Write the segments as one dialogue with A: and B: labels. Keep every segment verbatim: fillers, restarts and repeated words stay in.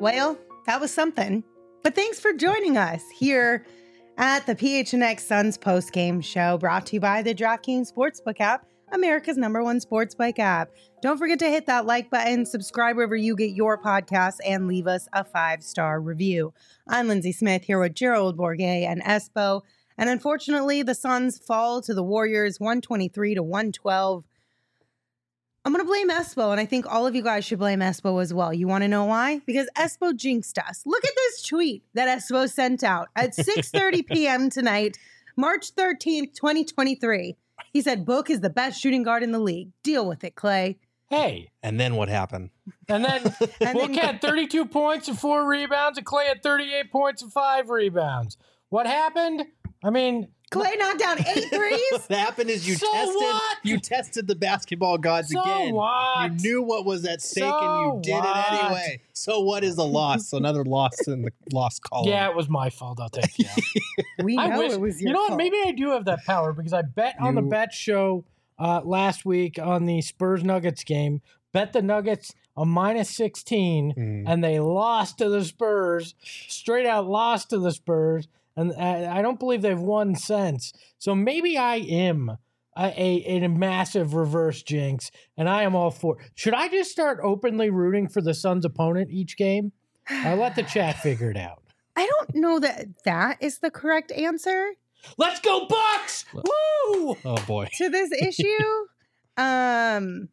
A: Well, that was something. But thanks for joining us here at the P H N X Suns postgame show, brought to you by the DraftKings Sportsbook app, America's number one sportsbook app. Don't forget to hit that like button, subscribe wherever you get your podcasts, and leave us a five-star review. I'm Lindsay Smith here with Gerald Bourguet and Espo. And unfortunately, the Suns fall to the Warriors one twenty-three to one twelve. I'm going to blame Espo, and I think all of you guys should blame Espo as well. You want to know why? Because Espo jinxed us. Look at this tweet that Espo sent out at six thirty p.m. tonight, March thirteenth, twenty twenty-three. He said, Book is the best shooting guard in the league. Deal with it, Clay.
B: Hey.
C: And then what happened?
B: And then and Book then, had thirty-two points and four rebounds, and Clay had thirty-eight points and five rebounds. What happened? I mean...
A: Clay knocked down eight threes?
C: What happened is you
B: so
C: tested
B: what?
C: you tested the basketball gods
B: so
C: again.
B: What?
C: You knew what was at stake
B: so
C: and you did
B: what?
C: it anyway. So what is a loss? Another loss in the loss column.
B: Yeah, it was my fault. I'll take it.
A: We know
B: I wish,
A: it was your
B: You know
A: fault.
B: what? Maybe I do have that power because I bet on the
C: You-
B: bet show uh, last week on the Spurs Nuggets game. Bet the Nuggets a minus sixteen,
C: Mm.
B: and they lost to the Spurs. Straight out lost to the Spurs. And I don't believe they've won since. So maybe I am a, a, a massive reverse jinx, and I am all for. Should I just start openly rooting for the Suns' opponent each game? I'll let the chat figure it out.
A: I don't know that that is the correct answer
B: Let's go Bucks! Woo!
C: Oh boy.
A: to this issue. um,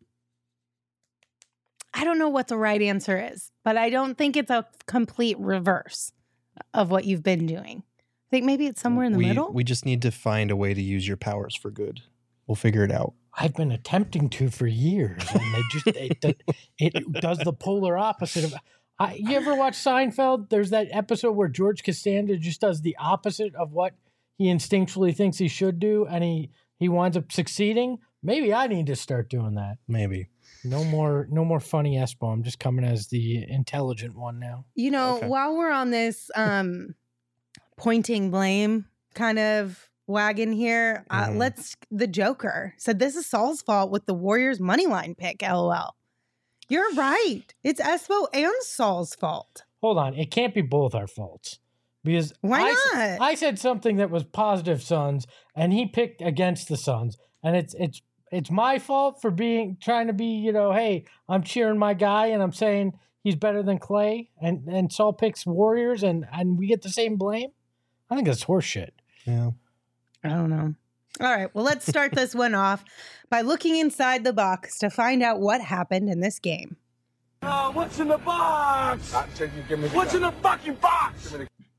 A: I don't know what the right answer is, but I don't think it's a complete reverse of what you've been doing. I think maybe it's somewhere in the
C: we,
A: middle.
C: We just need to find a way to use your powers for good. We'll figure it out.
B: I've been attempting to for years, and they just it, it does the polar opposite of. I, you ever watch Seinfeld? There's that episode where George Costanza just does the opposite of what he instinctually thinks he should do, and he he winds up succeeding. Maybe I need to start doing that.
C: Maybe.
B: No more, no more funny Espo. I'm just coming as the intelligent one now.
A: You know,
C: Okay.
A: while we're on this um, pointing blame kind of wagon here, uh,
C: Mhm.
A: let's. The Joker said this is Saul's fault with the Warriors money line pick. LOL. You're right. It's Espo and Saul's fault.
B: Hold on, it can't be both our faults because
A: Why
B: I, s-
A: not?
B: I said something that was positive Suns, and he picked against the Suns, and it's it's it's my fault for being trying to be, you know, hey, I'm cheering my guy, and I'm saying he's better than Clay, and and Saul picks Warriors, and and we get the same blame. I think that's horseshit.
C: Yeah.
A: I don't know. All right. Well, let's start this one off by looking inside the box to find out what happened in this game.
D: Uh, what's in the box? What's in the fucking box?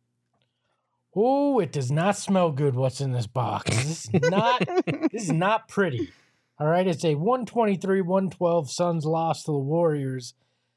B: Oh, it does not smell good. What's in this box? This is not. This is not pretty. All right, it's a one twenty-three one twelve Suns loss to the Warriors,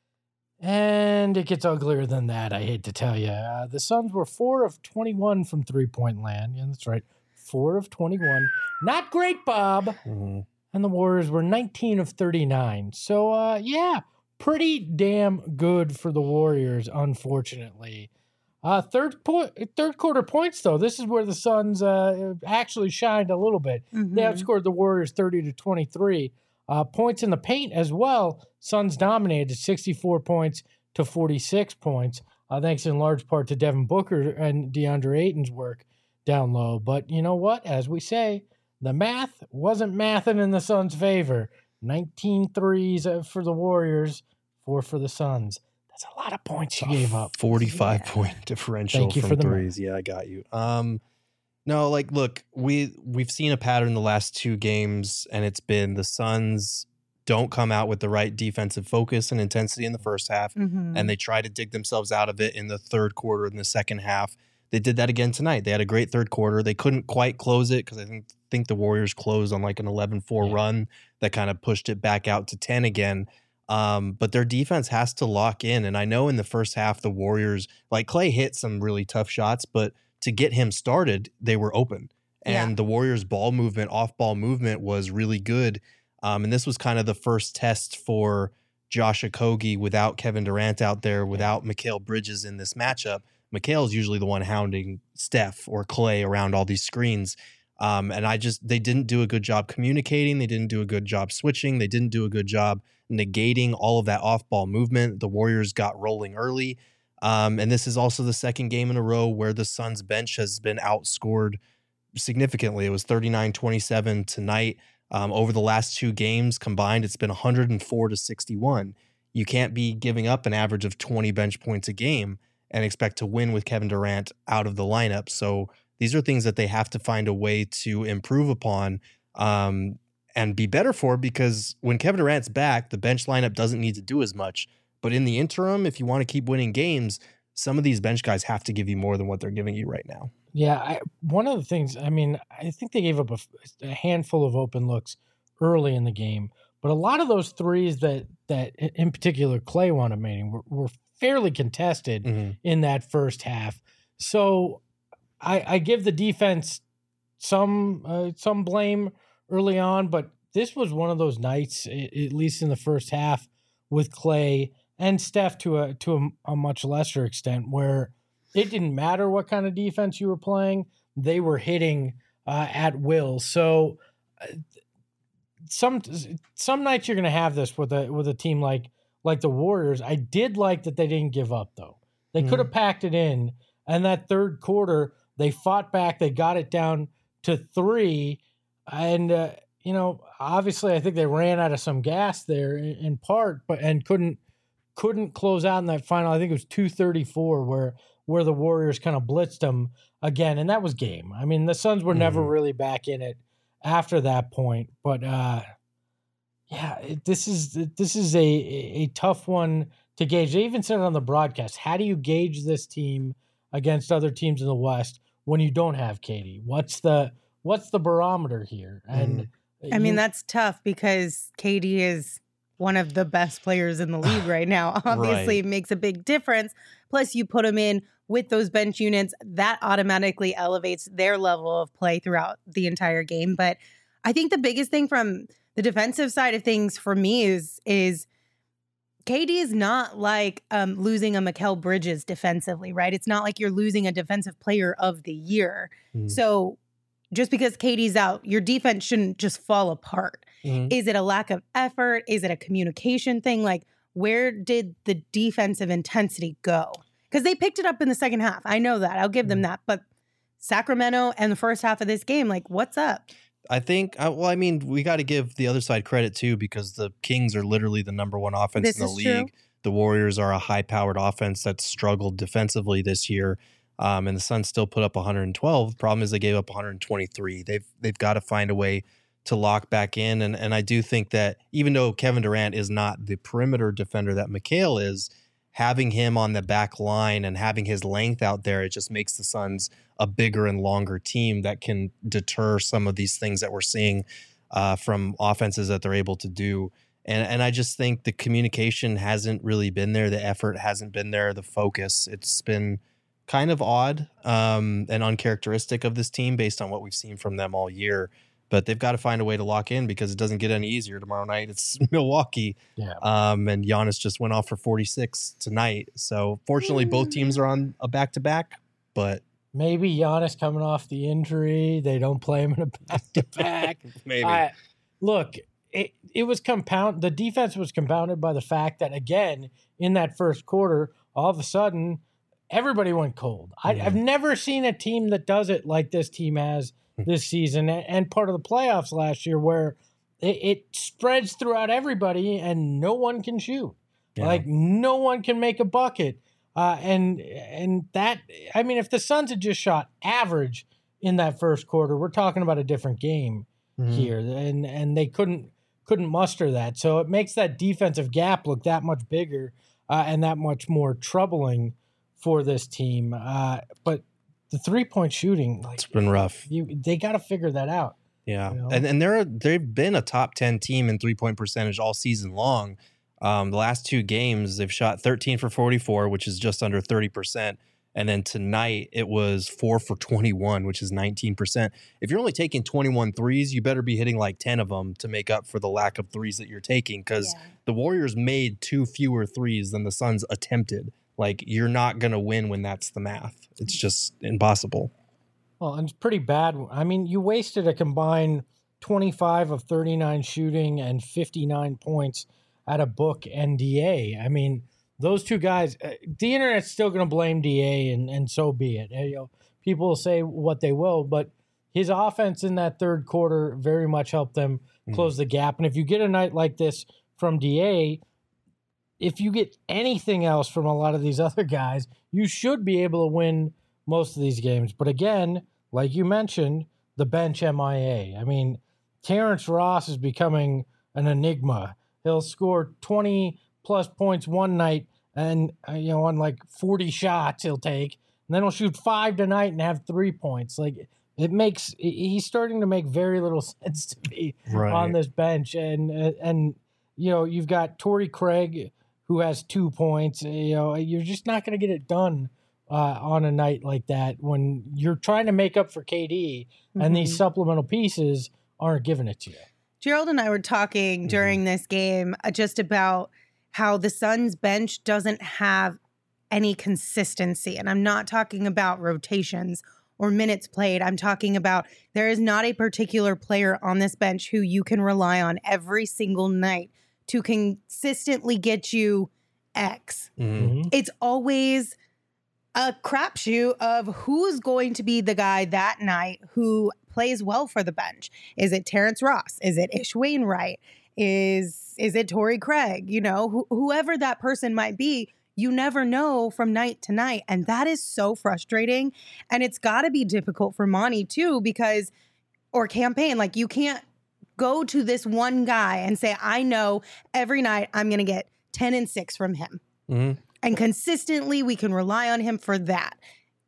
B: and it gets uglier than that. I hate to tell you, uh, the Suns were four of twenty-one from three-point land. Yeah, that's right, four of twenty-one. Not great, Bob.
C: Mhm.
B: And the Warriors were nineteen of thirty-nine. So, uh, yeah, pretty damn good for the Warriors, unfortunately. Uh, third point, third quarter points, though. This is where the Suns uh, actually shined a little bit. They
A: Mhm.
B: outscored the Warriors thirty to twenty-three. Uh, points in the paint as well. Suns dominated sixty-four points to forty-six points, uh, thanks in large part to Devin Booker and DeAndre Ayton's work down low. But you know what? As we say, the math wasn't mathing in the Suns' favor. nineteen threes uh, for the Warriors, four for the Suns. That's a lot of points you gave up.
C: forty-five
A: Yeah.
C: point differential
B: Thank you
C: from
B: for the
C: threes. Yeah, I got you. Um, no, like, look, we we've seen a pattern the last two games, and it's been the Suns don't come out with the right defensive focus and intensity in the first half,
A: Mhm.
C: and they try to dig themselves out of it in the third quarter in the second half. They did that again tonight. They had a great third quarter. They couldn't quite close it because I think think the Warriors closed on like an eleven four
B: Yeah.
C: run that kind of pushed it back out to ten again. Um, but their defense has to lock in. And I know in the first half, the Warriors, like Clay hit some really tough shots, but to get him started, they were open. And
A: Yeah.
C: the Warriors' ball movement, off ball movement was really good. Um, and this was kind of the first test for Josh Okogie without Kevin Durant out there, without Mikal Bridges in this matchup. Mikal's usually the one hounding Steph or Clay around all these screens. Um, and I just, they didn't do a good job communicating. They didn't do a good job switching. They didn't do a good job negating all of that off-ball movement. The Warriors got rolling early. Um, and this is also the second game in a row where the Suns bench has been outscored significantly. It was thirty-nine twenty-seven tonight. Um, over the last two games combined, it's been one hundred four to sixty-one. You can't be giving up an average of twenty bench points a game and expect to win with Kevin Durant out of the lineup. So these are things that they have to find a way to improve upon um, and be better for, because when Kevin Durant's back, the bench lineup doesn't need to do as much. But in the interim, if you want to keep winning games, some of these bench guys have to give you more than what they're giving you right now.
B: Yeah, I, one of the things, I mean, I think they gave up a, a handful of open looks early in the game, but a lot of those threes that, that in particular Clay wound up making were, were fairly contested mm-hmm. in that first half. So I, I give the defense some uh, some blame early on, but this was one of those nights, at least in the first half, with Clay and Steph to a to a, a much lesser extent, where it didn't matter what kind of defense you were playing; they were hitting uh, at will. So uh, some some nights you're going to have this with a with a team like like the Warriors. I did like that they didn't give up, though. They mm-hmm. could have packed it in, and that third quarter they fought back. They got it down to three, and uh, you know, obviously, I think they ran out of some gas there in, in part, but and couldn't couldn't close out in that final. I think it was two thirty-four where where the Warriors kind of blitzed them again, and that was game. I mean, the Suns were mm-hmm. never really back in it after that point, but uh, yeah, it, this is this is a a tough one to gauge. They even said it on the broadcast. How do you gauge this team against other teams in the West when you don't have K D? What's the what's the barometer here? And
A: mm. I mean, that's tough because K D is one of the best players in the league right now. Obviously, right. It makes a big difference. Plus, you put him in with those bench units, that automatically elevates their level of play throughout the entire game. But I think the biggest thing from the defensive side of things for me is is K D is not like um, losing a Mikal Bridges defensively, right? It's not like you're losing a defensive player of the year. Mm. So just because K D's out, your defense shouldn't just fall apart. Mm-hmm. Is it a lack of effort? Is it a communication thing? Like, where did the defensive intensity go? Because they picked it up in the second half. I know that. I'll give mm-hmm. them that. But Sacramento and the first half of this game, like, what's up?
C: I think, well, I mean, we got to give the other side credit, too, because the Kings are literally the number one offense this in the league. True. The Warriors are a high-powered offense that's struggled defensively this year. Um, and the Suns still put up one hundred twelve. Problem is they gave up one hundred twenty-three. They've they've got to find a way to lock back in. And, and I do think that even though Kevin Durant is not the perimeter defender that Mikal is, having him on the back line and having his length out there, it just makes the Suns a bigger and longer team that can deter some of these things that we're seeing uh, from offenses that they're able to do. And and I just think the communication hasn't really been there. The effort hasn't been there. The focus, it's been kind of odd um, and uncharacteristic of this team based on what we've seen from them all year. But they've got to find a way to lock in because it doesn't get any easier tomorrow night. It's Milwaukee.
B: Yeah.
C: Um, and Giannis just went off for forty-six tonight. So fortunately, both teams are on a back-to-back. But
B: maybe Giannis coming off the injury, they don't play him in a back-to-back.
C: Maybe.
B: I, look, it, it was compound. The defense was compounded by the fact that, again, in that first quarter, all of a sudden, everybody went cold. I, mm-hmm. I've never seen a team that does it like this team has this season and part of the playoffs last year, where it, it spreads throughout everybody and no one can shoot. Yeah. Like no one can make a bucket. Uh, and and that, I mean, if the Suns had just shot average in that first quarter, we're talking about a different game mm-hmm. here. And and they couldn't couldn't muster that. So it makes that defensive gap look that much bigger uh, and that much more troubling for this team. Uh, but the three-point shooting, like,
C: it's been rough.
B: You, they got to figure that out.
C: Yeah,
B: you know?
C: and and they're they've been a top ten team in three-point percentage all season long. Um, the last two games, they've shot thirteen for forty-four, which is just under thirty percent. And then tonight, it was four for twenty-one, which is nineteen percent. If you're only taking twenty-one threes, you better be hitting like ten of them to make up for the lack of threes that you're taking, because yeah. the Warriors made two fewer threes than the Suns attempted. Like, you're not going to win when that's the math. It's just impossible.
B: Well, and it's pretty bad. I mean, you wasted a combined twenty-five of thirty-nine shooting and fifty-nine points at a book N D A. I mean, those two guys, uh, the internet's still going to blame D A, and, and so be it. You know, people will say what they will, but his offense in that third quarter very much helped them close mm. the gap. And if you get a night like this from D A, if you get anything else from a lot of these other guys, you should be able to win most of these games. But again, like you mentioned, the bench M I A. I mean, Terrence Ross is becoming an enigma. He'll score twenty plus points one night and, uh, you know, on like forty shots he'll take. And then he'll shoot five tonight and have three points. Like, it makes, he's starting to make very little sense to me right. on this bench. And, and, you know, you've got Torrey Craig, who has two points. You know, you're just not going to get it done uh, on a night like that when you're trying to make up for K D mm-hmm. and these supplemental pieces aren't giving it to you.
A: Gerald and I were talking mm-hmm. during this game uh, just about how the Suns bench doesn't have any consistency. And I'm not talking about rotations or minutes played. I'm talking about there is not a particular player on this bench who you can rely on every single night to consistently get you X. Mm-hmm. It's always a crapshoot of who's going to be the guy that night who plays well for the bench. Is it Terrence Ross? Is it Ish Wainwright? Is is it Torrey Craig? You know, wh- whoever that person might be, you never know from night to night. And that is so frustrating. And it's got to be difficult for Monty too, because, or campaign, like you can't go to this one guy and say, I know every night I'm going to get ten and six from him. Mm-hmm. And consistently we can rely on him for that.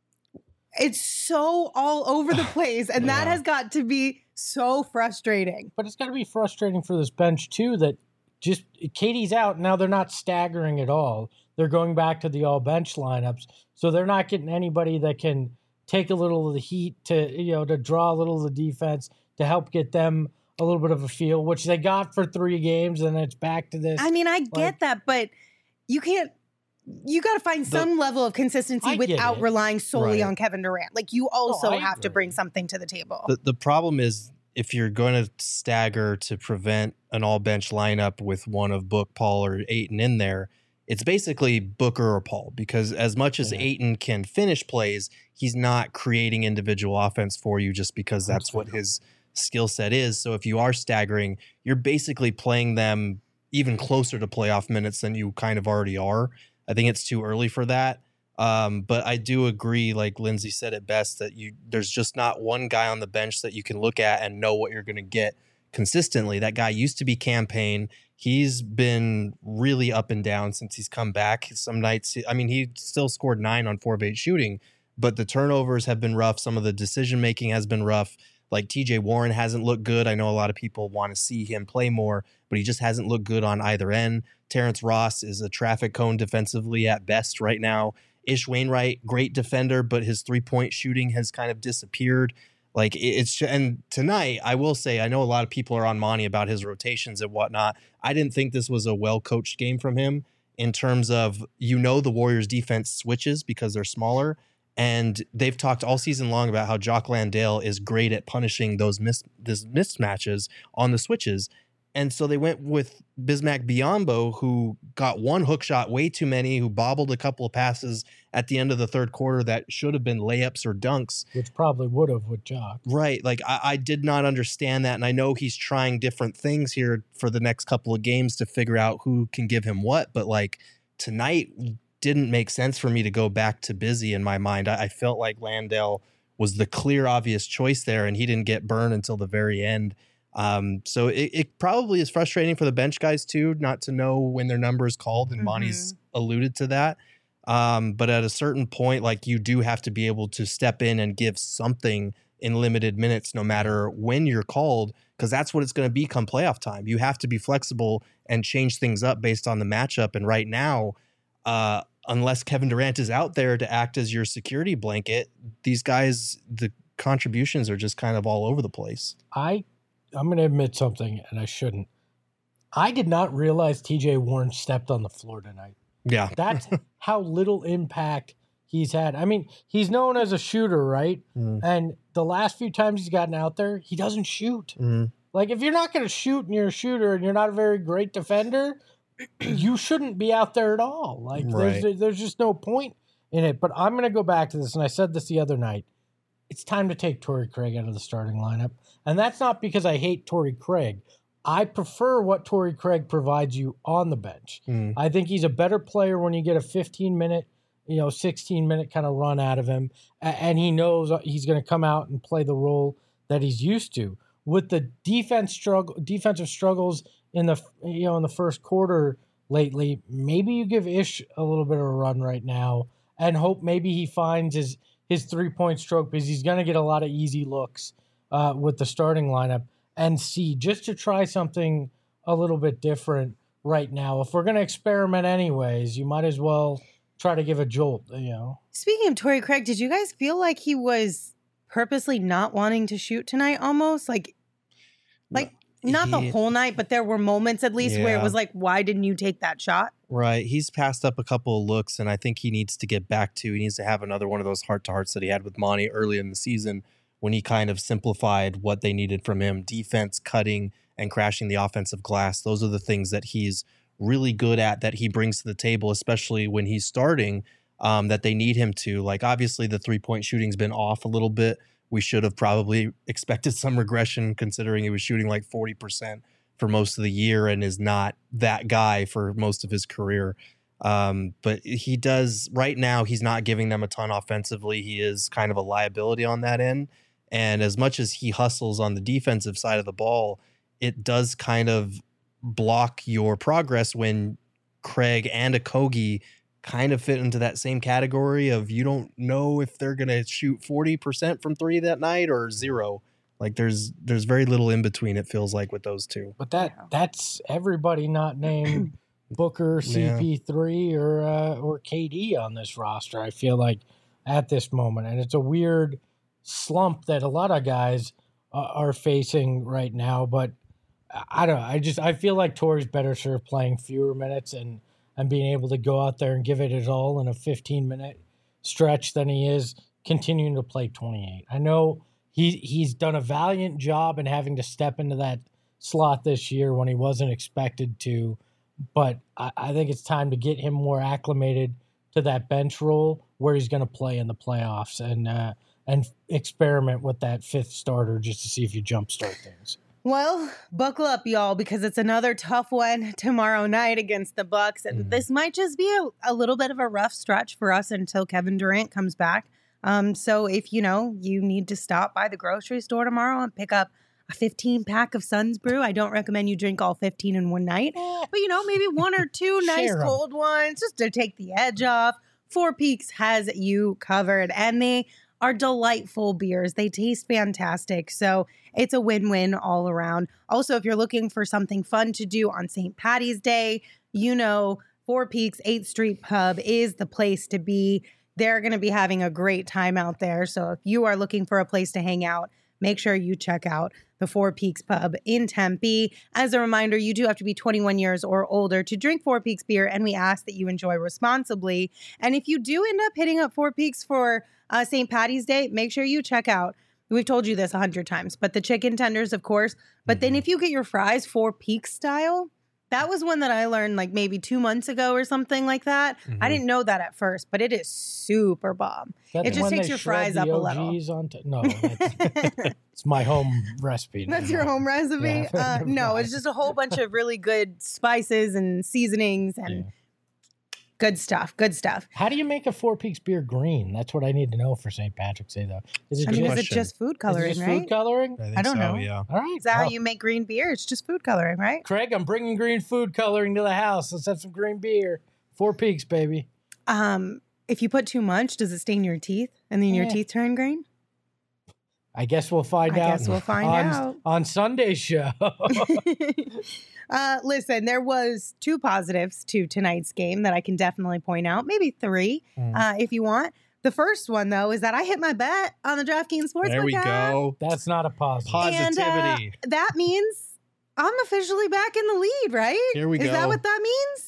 A: It's so all over the place. And yeah. that has got to be so frustrating.
B: But it's got to be frustrating for this bench too, that just K D's out. Now they're not staggering at all. They're going back to the all bench lineups. So they're not getting anybody that can take a little of the heat to, you know, to draw a little of the defense to help get them a little bit of a feel, which they got for three games, and it's back to this.
A: I mean, I get like, that, but you can't, you got to find some the, level of consistency I without relying solely right. on Kevin Durant. Like, you also oh, have agree. to bring something to the table.
C: The, the problem is, if you're going to stagger to prevent an all-bench lineup with one of Book, Paul, or Ayton in there, it's basically Booker or Paul, because as much as yeah. Ayton can finish plays, he's not creating individual offense for you just because that's Absolutely. what his skill set is. So if you are staggering, you're basically playing them even closer to playoff minutes than you kind of already are. I think it's too early for that. Um, but I do agree, like Lindsay said it best, that you there's just not one guy on the bench that you can look at and know what you're going to get consistently. That guy used to be Campaign. He's been really up and down since he's come back. Some nights, I mean, he still scored nine on four of eight shooting, but the turnovers have been rough. Some of the decision-making has been rough. Like T J Warren hasn't looked good. I know a lot of people want to see him play more, but he just hasn't looked good on either end. Terrence Ross is a traffic cone defensively at best right now. Ish Wainwright, great defender, but his three-point shooting has kind of disappeared. Like it's, and tonight, I will say, I know a lot of people are on Monty about his rotations and whatnot. I didn't think this was a well-coached game from him in terms of, you know, the Warriors defense switches because they're smaller. And they've talked all season long about how Jock Landale is great at punishing those mis- this mismatches on the switches. And so they went with Bismack Biyombo, who got one hook shot way too many, who bobbled a couple of passes at the end of the third quarter that should have been layups or dunks.
B: Which probably would have with Jock.
C: Right. Like, I, I did not understand that. And I know he's trying different things here for the next couple of games to figure out who can give him what. But, like, tonight didn't make sense for me to go back to Busy in my mind. I, I felt like Landale was the clear, obvious choice there, and he didn't get burned until the very end. Um, so it, it probably is frustrating for the bench guys too, not to know when their number is called, and mm-hmm. Monty's alluded to that. Um, but at a certain point, like, you do have to be able to step in and give something in limited minutes, no matter when you're called, because that's what it's going to be come playoff time. You have to be flexible and change things up based on the matchup. And right now, uh, unless Kevin Durant is out there to act as your security blanket, these guys, the contributions are just kind of all over the place.
B: I I'm going to admit something, and I shouldn't. I did not realize T J Warren stepped on the floor tonight.
C: Yeah.
B: That's how little impact he's had. I mean, he's known as a shooter, right? Mm. And the last few times he's gotten out there, he doesn't shoot. Mm. Like, if you're not going to shoot and you're a shooter and you're not a very great defender, you shouldn't be out there at all. Like
C: Right.
B: there's there's just no point in it. But I'm going to go back to this, and I said this the other night. It's time to take Torrey Craig out of the starting lineup, and that's not because I hate Torrey Craig. I prefer what Torrey Craig provides you on the bench.
C: Mm.
B: I think he's a better player when you get a fifteen minute, you know, sixteen minute kind of run out of him, and he knows he's going to come out and play the role that he's used to. With the defense struggle, defensive struggles in the you know in the first quarter lately, maybe you give Ish a little bit of a run right now and hope maybe he finds his his three point stroke, because he's going to get a lot of easy looks uh, with the starting lineup, and see just to try something a little bit different right now. If we're going to experiment anyways, you might as well try to give a jolt. You know.
A: Speaking of Torrey Craig, did you guys feel like he was purposely not wanting to shoot tonight? Almost like, like. Not the
C: He-
A: whole night, but there were moments at least where it
C: Yeah.
A: was like, why didn't you take that shot?
C: Right. He's passed up a couple of looks, and I think he needs to get back to, he needs to have another one of those heart to hearts that he had with Monty early in the season when he kind of simplified what they needed from him. Defense, cutting, and crashing the offensive glass. Those are the things that he's really good at, that he brings to the table, especially when he's starting, um, that they need him to. Like, obviously, the three-point shooting's been off a little bit. We should have probably expected some regression, considering he was shooting like forty percent for most of the year and is not that guy for most of his career. Um, but he does right now, he's not giving them a ton offensively. He is kind of a liability on that end. And as much as he hustles on the defensive side of the ball, it does kind of block your progress when Craig and Okogie kind of fit into that same category of, you don't know if they're going to shoot forty percent from three that night or zero. Like there's there's very little in between, it feels like, with those two.
B: But that
A: Yeah.
B: that's everybody not named Booker, C P three, or uh, or K D on this roster, I feel like, at this moment. And it's a weird slump that a lot of guys uh, are facing right now. But I I don't know. I just I feel like Torrey's better served playing fewer minutes and, and being able to go out there and give it his all in a fifteen-minute stretch than he is continuing to play twenty-eight. I know he he's done a valiant job in having to step into that slot this year when he wasn't expected to, but I, I think it's time to get him more acclimated to that bench role where he's going to play in the playoffs, and uh, and experiment with that fifth starter just to see if you jumpstart things.
A: Well, buckle up, y'all, because it's another tough one tomorrow night against the Bucks, and
C: Mhm.
A: this might just be a, a little bit of a rough stretch for us until Kevin Durant comes back. Um, so if you know you need to stop by the grocery store tomorrow and pick up a fifteen pack of Suns Brew, I don't recommend you drink all fifteen in one night, but you know maybe one or two nice
B: Share 'em.
A: cold ones just to take the edge off. Four Peaks has you covered, and they are delightful beers. They taste fantastic. So it's a win-win all around. Also, if you're looking for something fun to do on Saint Patty's Day, you know, Four Peaks eighth Street Pub is the place to be. They're going to be having a great time out there. So if you are looking for a place to hang out, make sure you check out the Four Peaks Pub in Tempe. As a reminder, you do have to be twenty-one years or older to drink Four Peaks beer, and we ask that you enjoy responsibly. And if you do end up hitting up Four Peaks for uh, Saint Patty's Day, make sure you check out, we've told you this a hundred times, but the chicken tenders, of course. But then if you get your fries Four Peaks style, that was one that I learned like maybe two months ago or something like that. I
C: Mhm.
A: didn't know that at first, but it is super bomb.
B: That
A: It just
B: when
A: takes
B: they
A: your
B: shred
A: fries up
B: the
A: a little.
B: O Gs On t- no, that's, it's my home recipe.
A: That's
B: now.
A: your home recipe?
B: Yeah,
A: uh,
B: the
A: no, it's
B: fries.
A: just a whole bunch of really good spices and seasonings and
B: Yeah.
A: good stuff. Good stuff.
B: How do you make a Four Peaks beer green? That's what I need to know for Saint Patrick's Day, though. Is it
A: I mean,
B: just,
A: is it
C: question.
A: just food
B: is it
A: coloring,
B: just
A: right?
B: food coloring?
C: I, think
A: I don't
C: so,
A: know.
C: Yeah.
B: All right.
A: Is that how
B: well,
A: you make green beer? It's just food coloring, right?
B: Craig, I'm bringing green food coloring to the house. Let's have some green beer. Four Peaks, baby.
A: Um, if you put too much, does it stain your teeth and then your
B: Yeah.
A: teeth turn green?
B: I guess we'll find
A: I
B: out.
A: guess we'll find
B: on,
A: out.
B: on Sunday's show.
A: uh, listen, there was two positives to tonight's game that I can definitely point out. Maybe three,
C: Mm.
A: uh, if you want. The first one, though, is that I hit my bet on the DraftKings Sportsbook
C: There we
A: app.
C: go.
B: That's not a positive.
A: And, uh,
C: Positivity.
A: that means I'm officially back in the lead, right?
C: Here we
A: Is that
C: go.
A: what that means?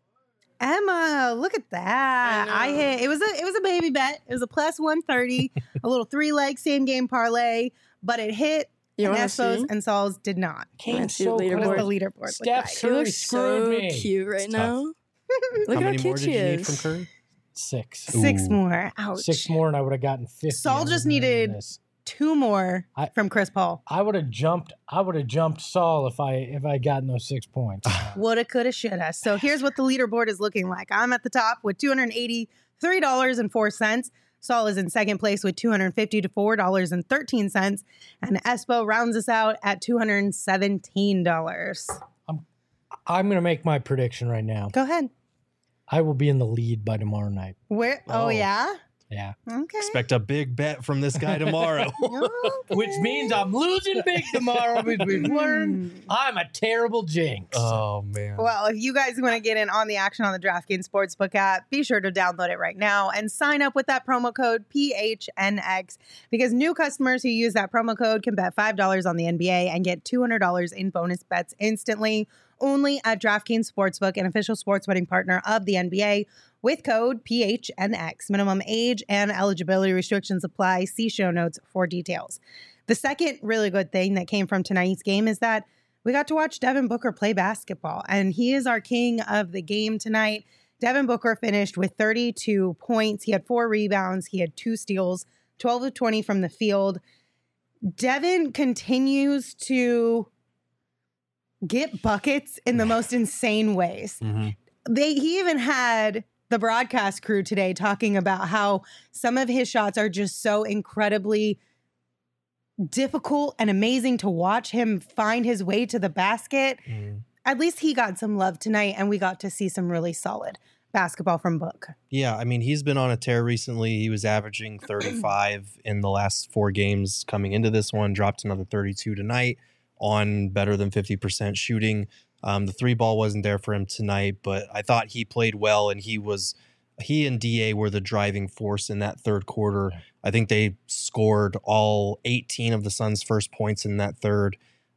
A: Emma, look at that. I,
C: I know.
A: hit it was a it was a baby bet. It was a plus one thirty, a little three leg same game parlay, but it hit
E: You
A: and
E: want to see?
A: Espos and Sauls did not.
B: Kane's
E: see the
B: so
A: What
E: leaderboard.
A: does
B: cool.
A: the leaderboard
B: Steph
A: look like?
E: She
B: Curry
E: looks
B: screwed
E: so
B: me.
E: cute right
C: It's
E: now. Look
C: How
E: how
C: many
E: cute
C: more did
E: she
C: you need
E: is.
C: from Curry?
B: Six.
A: Six
C: Ooh.
A: more. Ouch.
B: Six more, and I would have gotten fifty.
A: Saul
B: I
A: just
B: wouldn't have
A: needed-
B: done this.
A: Two more
B: I-
A: from Chris Paul.
B: I would have jumped. I would have jumped Saul if I if I gotten those six points.
A: Woulda, coulda, shoulda. So here's what the leaderboard is looking like. I'm at the top with two hundred eighty-three dollars and four cents. Saul is in second place with two hundred fifty-four dollars and thirteen cents. And Espo rounds us out at two hundred seventeen dollars.
B: I'm gonna make my prediction right now.
A: Go ahead.
B: I will be in the lead by tomorrow night.
A: Where? Oh,
C: Oh.
A: yeah?
B: Yeah,
A: Okay.
C: Expect a big bet from this guy tomorrow.
A: Okay.
B: which means I'm losing big tomorrow because we've learned
A: Hmm.
B: I'm a terrible jinx.
C: oh man.
A: Well, if you guys want to get in on the action on the DraftKings Sportsbook app, be sure to download it right now and sign up with that promo code P H N X because new customers who use that promo code can bet five dollars on the N B A and get two hundred dollars in bonus bets instantly. Only at DraftKings Sportsbook, an official sports betting partner of the N B A, with code P H N X. Minimum age and eligibility restrictions apply. See show notes for details. The second really good thing that came from tonight's game is that we got to watch Devin Booker play basketball, and he is our king of the game tonight. Devin Booker finished with thirty-two points. He had four rebounds. He had two steals, twelve of twenty from the field. Devin continues to get buckets in the most insane ways.
C: Mhm.
A: They he even had the broadcast crew today talking about how some of his shots are just so incredibly difficult and amazing to watch him find his way to the basket.
C: Mhm.
A: At least he got some love tonight, and we got to see some really solid basketball from Book.
C: Yeah, I mean, he's been on a tear recently. He was averaging thirty-five in the last four games coming into this one, dropped another thirty-two tonight on better than fifty percent shooting. Um, the three ball wasn't there for him tonight, but I thought he played well, and he was he and D A were the driving force in that third quarter. I think they scored all eighteen of the Suns' first points in that third.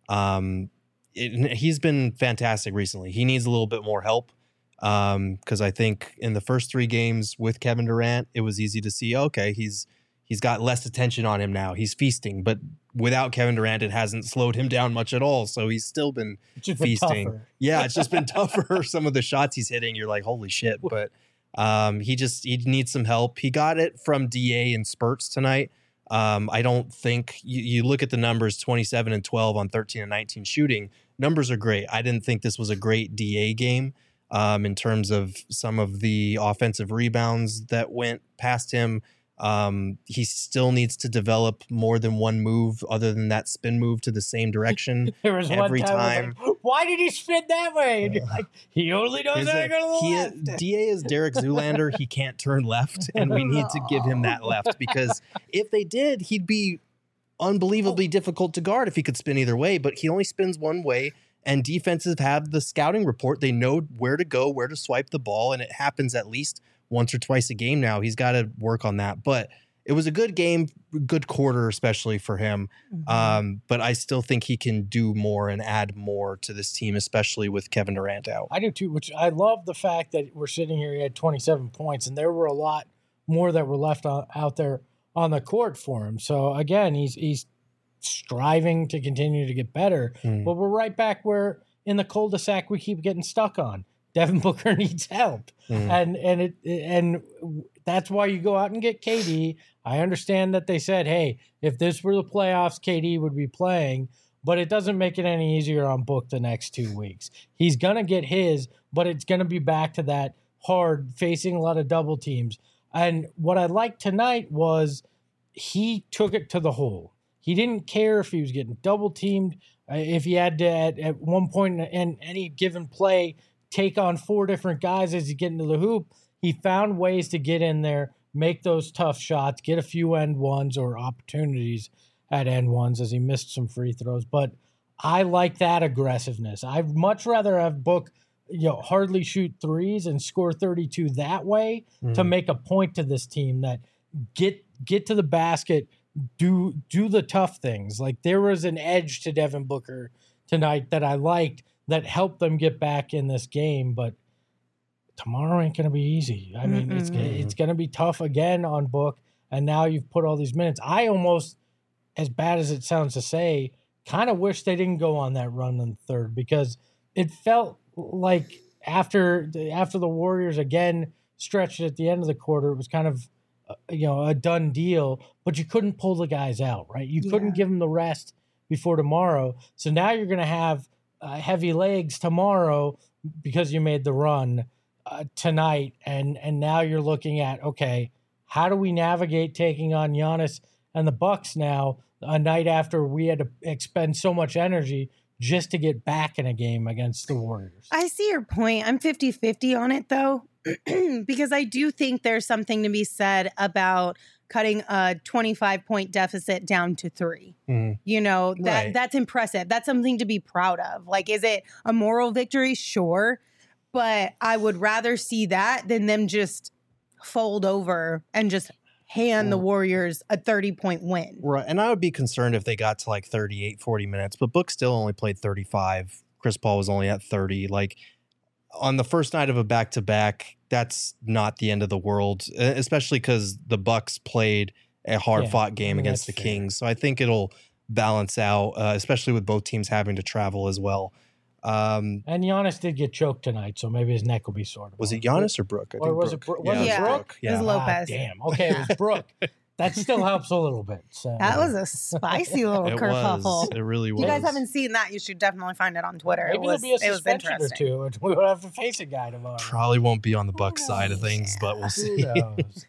C: Um, it, he's been fantastic recently. He needs a little bit more help. Um, because I think in the first three games with Kevin Durant, it was easy to see, okay, he's he's got less attention on him now. He's feasting, but without Kevin Durant, it hasn't slowed him down much at all. So he's still been
B: It's just been
C: feasting.
B: tougher.
C: Yeah, it's just been tougher. Some of the shots he's hitting, you're like, holy shit. But um, he just he needs some help. He got it from D A in spurts tonight. Um, I don't think you, you look at the numbers, twenty-seven and twelve on thirteen and nineteen shooting. Numbers are great. I didn't think this was a great D A game. Um, in terms of some of the offensive rebounds that went past him. Um, he still needs to develop more than one move other than that spin move to the same direction.
B: There was
C: Every
B: one time, I was like, why did he spin that way? And you're like, he only knows
C: Is
B: how to
C: it-
B: go to the
C: he,
B: left.
C: D A is Derek Zoolander. He can't turn left, and we need to give him that left because if they did, he'd be unbelievably difficult to guard if he could spin either way, but he only spins one way. And defenses have the scouting report. They know where to go, where to swipe the ball, and it happens at least once or twice a game now. He's got to work on that. But it was a good game, good quarter, especially for him.
A: Mm-hmm.
C: Um, but I still think he can do more and add more to this team, especially with Kevin Durant out.
B: I do too, which I love the fact that we're sitting here, he had twenty-seven points, and there were a lot more that were left on, out there on the court for him. So again, he's he's striving to continue to get better.
C: Mm.
B: But we're right back where in the cul-de-sac we keep getting stuck on. Devin Booker needs help.
C: Mm.
B: And and it and that's why you go out and get K D. I understand that they said, hey, if this were the playoffs, K D would be playing, but it doesn't make it any easier on Book the next two weeks. He's gonna get his, but it's gonna be back to that hard, facing a lot of double teams. And what I liked tonight was he took it to the hole. He didn't care if he was getting double teamed, uh, if he had to at, at one point in, in any given play take on four different guys as he get into the hoop. He found ways to get in there, make those tough shots, get a few end ones or opportunities at end ones as he missed some free throws. But I like that aggressiveness. I'd much rather have Book, you know, hardly shoot threes and score thirty-two that way
C: Mm.
B: to make a point to this team that get get to the basket, do do the tough things. Like there was an edge to Devin Booker tonight that I liked that helped them get back in this game, but tomorrow ain't going to be easy. I mean, it's
A: Mm-mm.
B: it's going to be tough again on Book, and now you've put all these minutes. I almost, as bad as it sounds to say, kind of wish they didn't go on that run in the third, because it felt like after the, after the Warriors again stretched at the end of the quarter, it was kind of uh, you know a done deal. But you couldn't pull the guys out, right? You
A: Yeah.
B: couldn't give them the rest before tomorrow. So now you're going to have uh, heavy legs tomorrow because you made the run uh, tonight, and and now you're looking at, okay, how do we navigate taking on Giannis and the Bucks now, a night after we had to expend so much energy just to get back in a game against the Warriors?
A: I see your point. I'm fifty-fifty on it, though, because I do think there's something to be said about cutting a twenty-five point deficit down to three.
C: Mhm.
A: You know, that
C: Right.
A: that's impressive. That's something to be proud of. Like, is it a moral victory? Sure. But I would rather see that than them just fold over and just hand the Warriors a thirty point win.
C: Right. And I would be concerned if they got to like thirty-eight, forty minutes, but Book still only played thirty-five. Chris Paul was only at thirty. Like on the first night of a back to back, that's not the end of the world, e- especially because the Bucks played a hard fought game
B: I mean,
C: against the
B: that's fair.
C: Kings. So I think it'll balance out, uh, especially with both teams having to travel as well. Um,
B: And Giannis did get choked tonight, so maybe his neck will be sore.
C: was it
B: tomorrow.
C: Giannis or Brooke? I
B: Or was it
C: Brooke.
B: Bro- was
C: yeah,
B: it
C: it was
A: Brooke?
C: Brooke.
A: It was
C: Yeah.
A: Lo-
B: Ah,
A: Lopez.
B: damn. Okay, it was Brooke. That still helps a little bit. So.
A: That was a spicy little
C: It
A: kerfuffle.
C: was. It really
A: If
C: was.
A: you guys haven't seen that, you should definitely find it on Twitter.
B: Maybe
A: it was,
B: there'll be a
A: it was
B: suspension or
A: interesting.
B: two, and we will have to face a guy tomorrow.
C: Probably won't be on the Bucks side of things, but we'll
B: Who
C: see.
B: knows?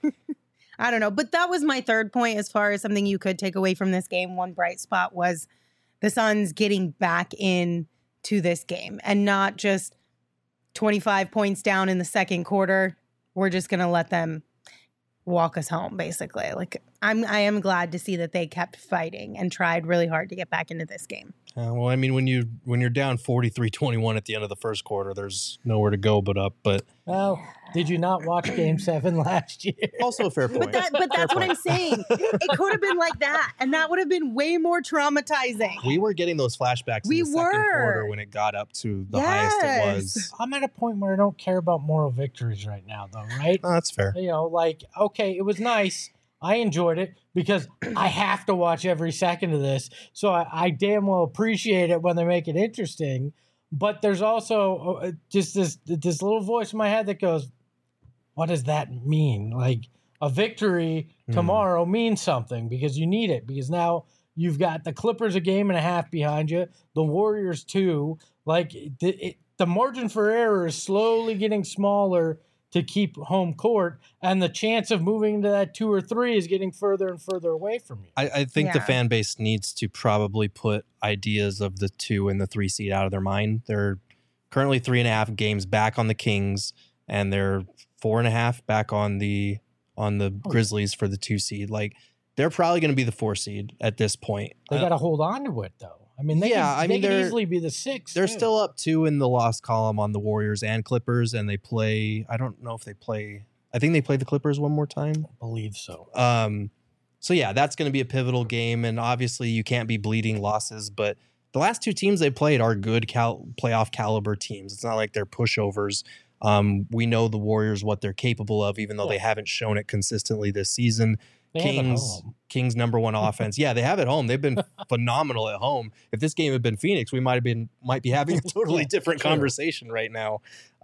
A: I don't know. But that was my third point as far as something you could take away from this game. One bright spot was the Suns getting back in to this game and not just twenty-five points down in the second quarter. We're just going to let them walk us home, basically. Like, I'm, I am glad to see that they kept fighting and tried really hard to get back into this game.
C: Uh, well, I mean, when you when you're down forty-three twenty-one at the end of the first quarter, there's nowhere to go but up. But
B: Well, did you not watch Game Seven last year?
C: also a fair point.
A: But that, but that's what I'm saying. It could have been like that, and that would have been way more traumatizing.
C: we were getting those flashbacks
A: We
C: in the second
A: were.
C: quarter when it got up to the highest it
A: Yes.
C: was.
B: I'm at a point where I don't care about moral victories right now, though, right?
C: Oh, that's fair.
B: You know, like, okay, it was nice. I enjoyed it because I have to watch every second of this. So I, I damn well appreciate it when they make it interesting. But there's also uh, just this this little voice in my head that goes, what does that mean? Like, a victory
C: Hmm.
B: tomorrow means something because you need it. Because now you've got the Clippers a game and a half behind you, the Warriors two. Like, it, it, the margin for error is slowly getting smaller to keep home court, and the chance of moving into that two or three is getting further and further away from you.
C: I, I think the
A: Yeah.
C: fan base needs to probably put ideas of the two and the three seed out of their mind. They're currently three and a half games back on the Kings, and they're four and a half back on the on the
B: Oh.
C: Grizzlies for the two seed. Like, they're probably going to be the four seed at this point.
B: They
C: Uh,
B: got to hold on to it, though. I mean, they
C: Yeah,
B: can,
C: I
B: they
C: mean,
B: can
C: they're-
B: easily be the six.
C: They're
B: too.
C: still up two in the loss column on the Warriors and Clippers, and they play. I don't know if they play. I think they play the Clippers one more time.
B: I believe so.
C: Um, so yeah, that's going to be a pivotal game, and obviously you can't be bleeding losses. But the last two teams they played are good cal- playoff caliber teams. It's not like they're pushovers. Um, we know the Warriors what they're capable of, even though they haven't shown it consistently this season.
B: They have it
C: Kings,
B: home.
C: Kings number one offense. Yeah, they have it home. They've been phenomenal at home. If this game had been Phoenix, we might have been might be having a totally
B: Yeah,
C: different
B: true.
C: conversation right now.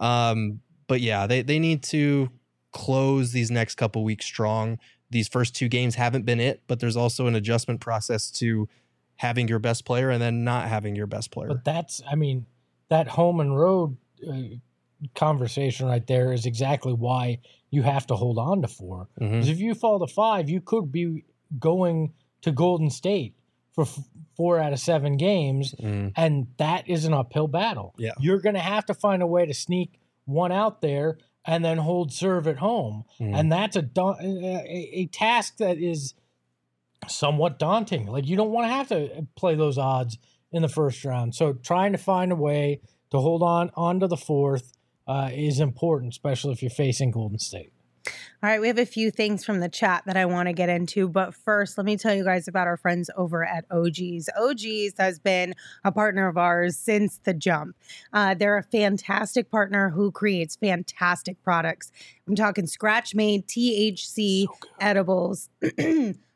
C: Um, but yeah, they they need to close these next couple weeks strong. These first two games haven't been it, but there's also an adjustment process to having your best player and then not having your best player.
B: But that's, I mean, that home and road uh, conversation right there is exactly why you have to hold on to four.
C: Mhm.
B: Because if you fall to five, you could be going to Golden State for f- four out of seven games,
C: Mm.
B: and that is an uphill battle.
C: Yeah.
B: You're going to have to find a way to sneak one out there and then hold serve at home.
C: Mhm.
B: And that's a, da- a a task that is somewhat daunting. Like, you don't want to have to play those odds in the first round. So trying to find a way to hold on onto the fourth uh, is important, especially if you're facing Golden State.
A: All right, we have a few things from the chat that I want to get into, but first, let me tell you guys about our friends over at O G's. O G's has been a partner of ours since the jump. Uh, they're a fantastic partner who creates fantastic products. I'm talking scratch-made T H C edibles,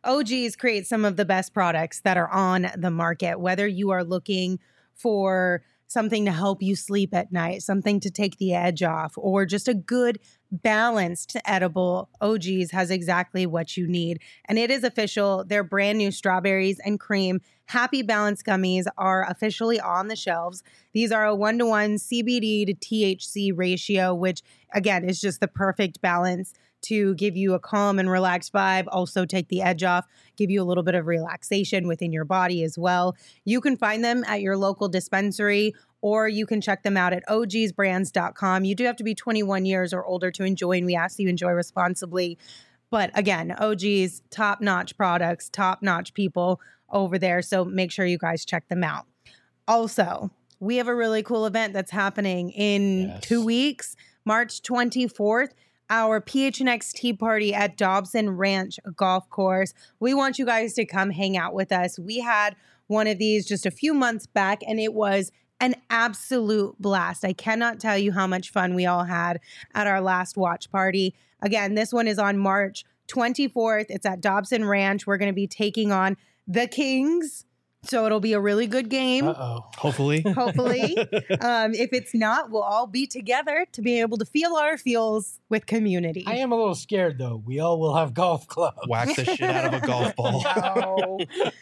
A: O G's creates some of the best products that are on the market, whether you are looking for something to help you sleep at night, something to take the edge off, or just a good balanced edible. O G's has exactly what you need. And it is official. Their brand new strawberries and cream Happy Balance gummies are officially on the shelves. These are a one-to-one C B D to T H C ratio, which again is just the perfect balance to give you a calm and relaxed vibe, also take the edge off, give you a little bit of relaxation within your body as well. You can find them at your local dispensary, or you can check them out at O Gs brands dot com. You do have to be twenty-one years or older to enjoy, and we ask that you enjoy responsibly. But again, O G's, top-notch products, top-notch people over there, so make sure you guys check them out. Also, we have a really cool event that's happening in
B: Yes.
A: two weeks, March twenty-fourth. Our P H N X Tea Party at Dobson Ranch Golf Course. We want you guys to come hang out with us. We had one of these just a few months back, and it was an absolute blast. I cannot tell you how much fun we all had at our last watch party. Again, this one is on March twenty-fourth. It's at Dobson Ranch. We're going to be taking on the Kings. So it'll be a really good game.
B: Uh-oh.
C: Hopefully.
A: Hopefully. um, if it's not, we'll all be together to be able to feel our feels with community.
B: I am a little scared, though. We all will have golf clubs.
C: Whack the shit out of a golf ball.
A: No.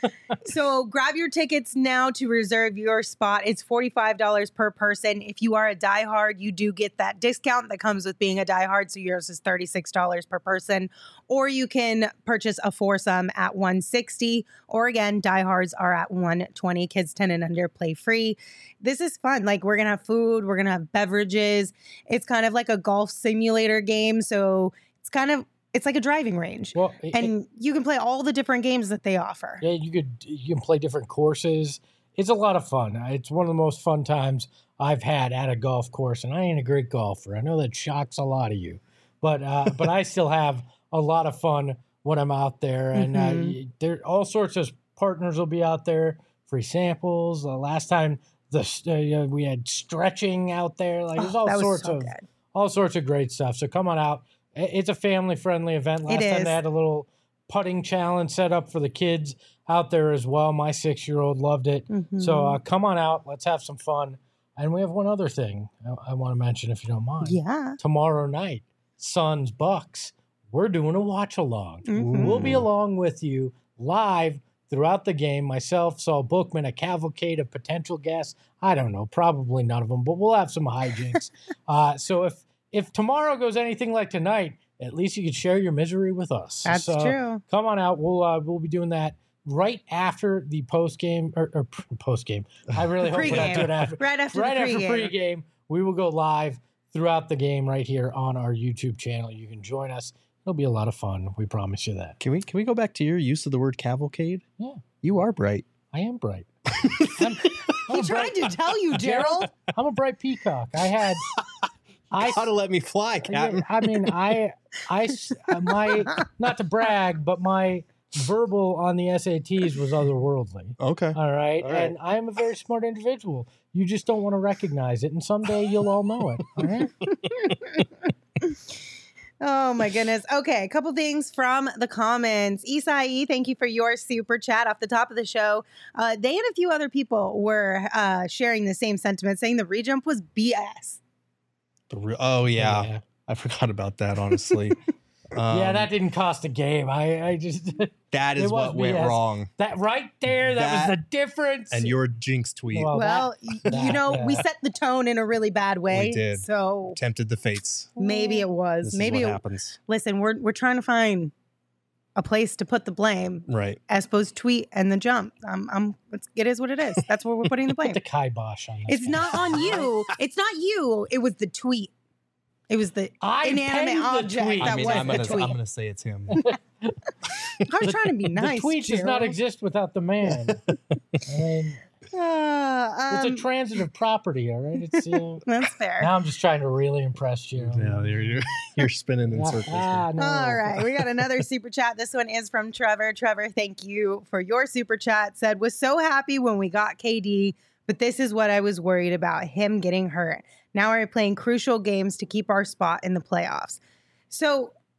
A: So grab your tickets now to reserve your spot. It's forty-five dollars per person. If you are a diehard, you do get that discount that comes with being a diehard. So yours is thirty-six dollars per person. Or you can purchase a foursome at one hundred sixty dollars. Or again, diehards are at one hundred twenty dollars. Kids ten and under play free. This is fun. Like, we're going to have food. We're going to have beverages. It's kind of like a golf simulator game. So it's kind of, it's like a driving range.
B: Well, it-
A: And you can play all the different games that they offer.
B: Yeah, you could you can play different courses. It's a lot of fun. It's one of the most fun times I've had at a golf course, and I ain't a great golfer. I know that shocks a lot of you, but uh, but I still have a lot of fun when I'm out there, and
A: Mhm.
B: uh, there all sorts of partners will be out there, free samples. Uh, last time the uh, we had stretching out there, like there's
A: Oh,
B: all
A: that was
B: sorts
A: so
B: of
A: good.
B: all sorts of great stuff. So come on out. I- It's a family friendly event. Last
A: It
B: time
A: is.
B: they had a little putting challenge set up for the kids out there as well. My six year old loved it. So uh, come on out. Let's have some fun. And we have one other thing I, I want to mention, if you don't mind.
A: Yeah.
B: Tomorrow night, Suns Bucks. We're doing a watch along.
A: Mhm.
B: We'll be along with you live throughout the game. Myself, Saul Bookman, a cavalcade of potential guests. I don't know, probably none of them, but we'll have some hijinks. uh, so if if tomorrow goes anything like tonight, at least you could share your misery with us.
A: That's
B: So
A: true.
B: Come on out. We'll uh, we'll be doing that right after the post game or, or post game. I really hope we're not
A: Pre-game.
B: doing after.
A: Right after
B: right
A: the
B: after
A: pregame.
B: pregame, we will go live throughout the game right here on our YouTube channel. You can join us. It'll be a lot of fun. We promise you that.
C: Can we can we go back to your use of the word cavalcade?
B: Yeah,
C: You are bright.
B: I am bright. I'm, I'm
A: He
B: a
A: tried
B: bright,
A: to tell you, Gerald.
B: I'm a bright peacock. I had. I
C: How to let me fly, Captain.
B: Yeah, I mean, I, I, s- uh, my, not to brag, but my verbal on the S A Ts was otherworldly.
C: Okay.
B: All right.
C: All right.
B: And I am a very smart individual. You just don't want to recognize it. And someday you'll all know it. All right.
A: Oh my goodness. Okay, a couple things from the comments. Isai, thank you for your super chat off the top of the show. Uh, they and a few other people were uh, sharing the same sentiment, saying the rejump was B S.
C: The re- oh yeah.
B: Yeah.
C: I forgot about that. Honestly. Um,
B: yeah, that didn't cost a game. I, I just,
C: that
B: it
C: is
B: was
C: what went
B: B S.
C: wrong.
B: that right there, that,
C: That-
B: was the difference.
C: And your jinx tweet
B: Well,
A: Well,
B: that-
A: y-
B: that-
A: you know, we
B: yeah.
A: set the tone in a really bad way.
C: We did.
A: So
C: tempted the fates.
A: maybe it was.
C: This
A: maybe
C: is what
A: it,
C: happens.
A: listen, we're we're trying to find a place to put the blame
C: Right.
A: as opposed to tweet and the jump. Um, I'm, it's, it is what it is. That's where we're putting the blame.
B: Put the kibosh on this.
A: It's
B: one.
A: not on you. It's not you. It was the tweet. It was the
B: I
A: inanimate
B: penned the
A: object
B: tweet.
A: that
C: I mean,
A: was
C: I'm
A: the
C: gonna,
A: tweet.
C: I'm gonna say it's him.
A: I was trying to be nice.
B: the tweet does not
A: Gerald.
B: exist without the man. I mean,
A: Uh,
B: it's
A: um,
B: a transitive property, all right? It's uh,
A: that's fair.
B: now I'm just trying to really impress you.
C: yeah, you're, you're, you're spinning in
B: Ah,
C: circles. here.
B: ah, no.
A: All right, we got another super chat. This one is from Trevor. Trevor, thank you for your super chat. Said, was so happy when we got K D, but this is what I was worried about, him getting hurt. Now we're playing crucial games to keep our spot in the playoffs. So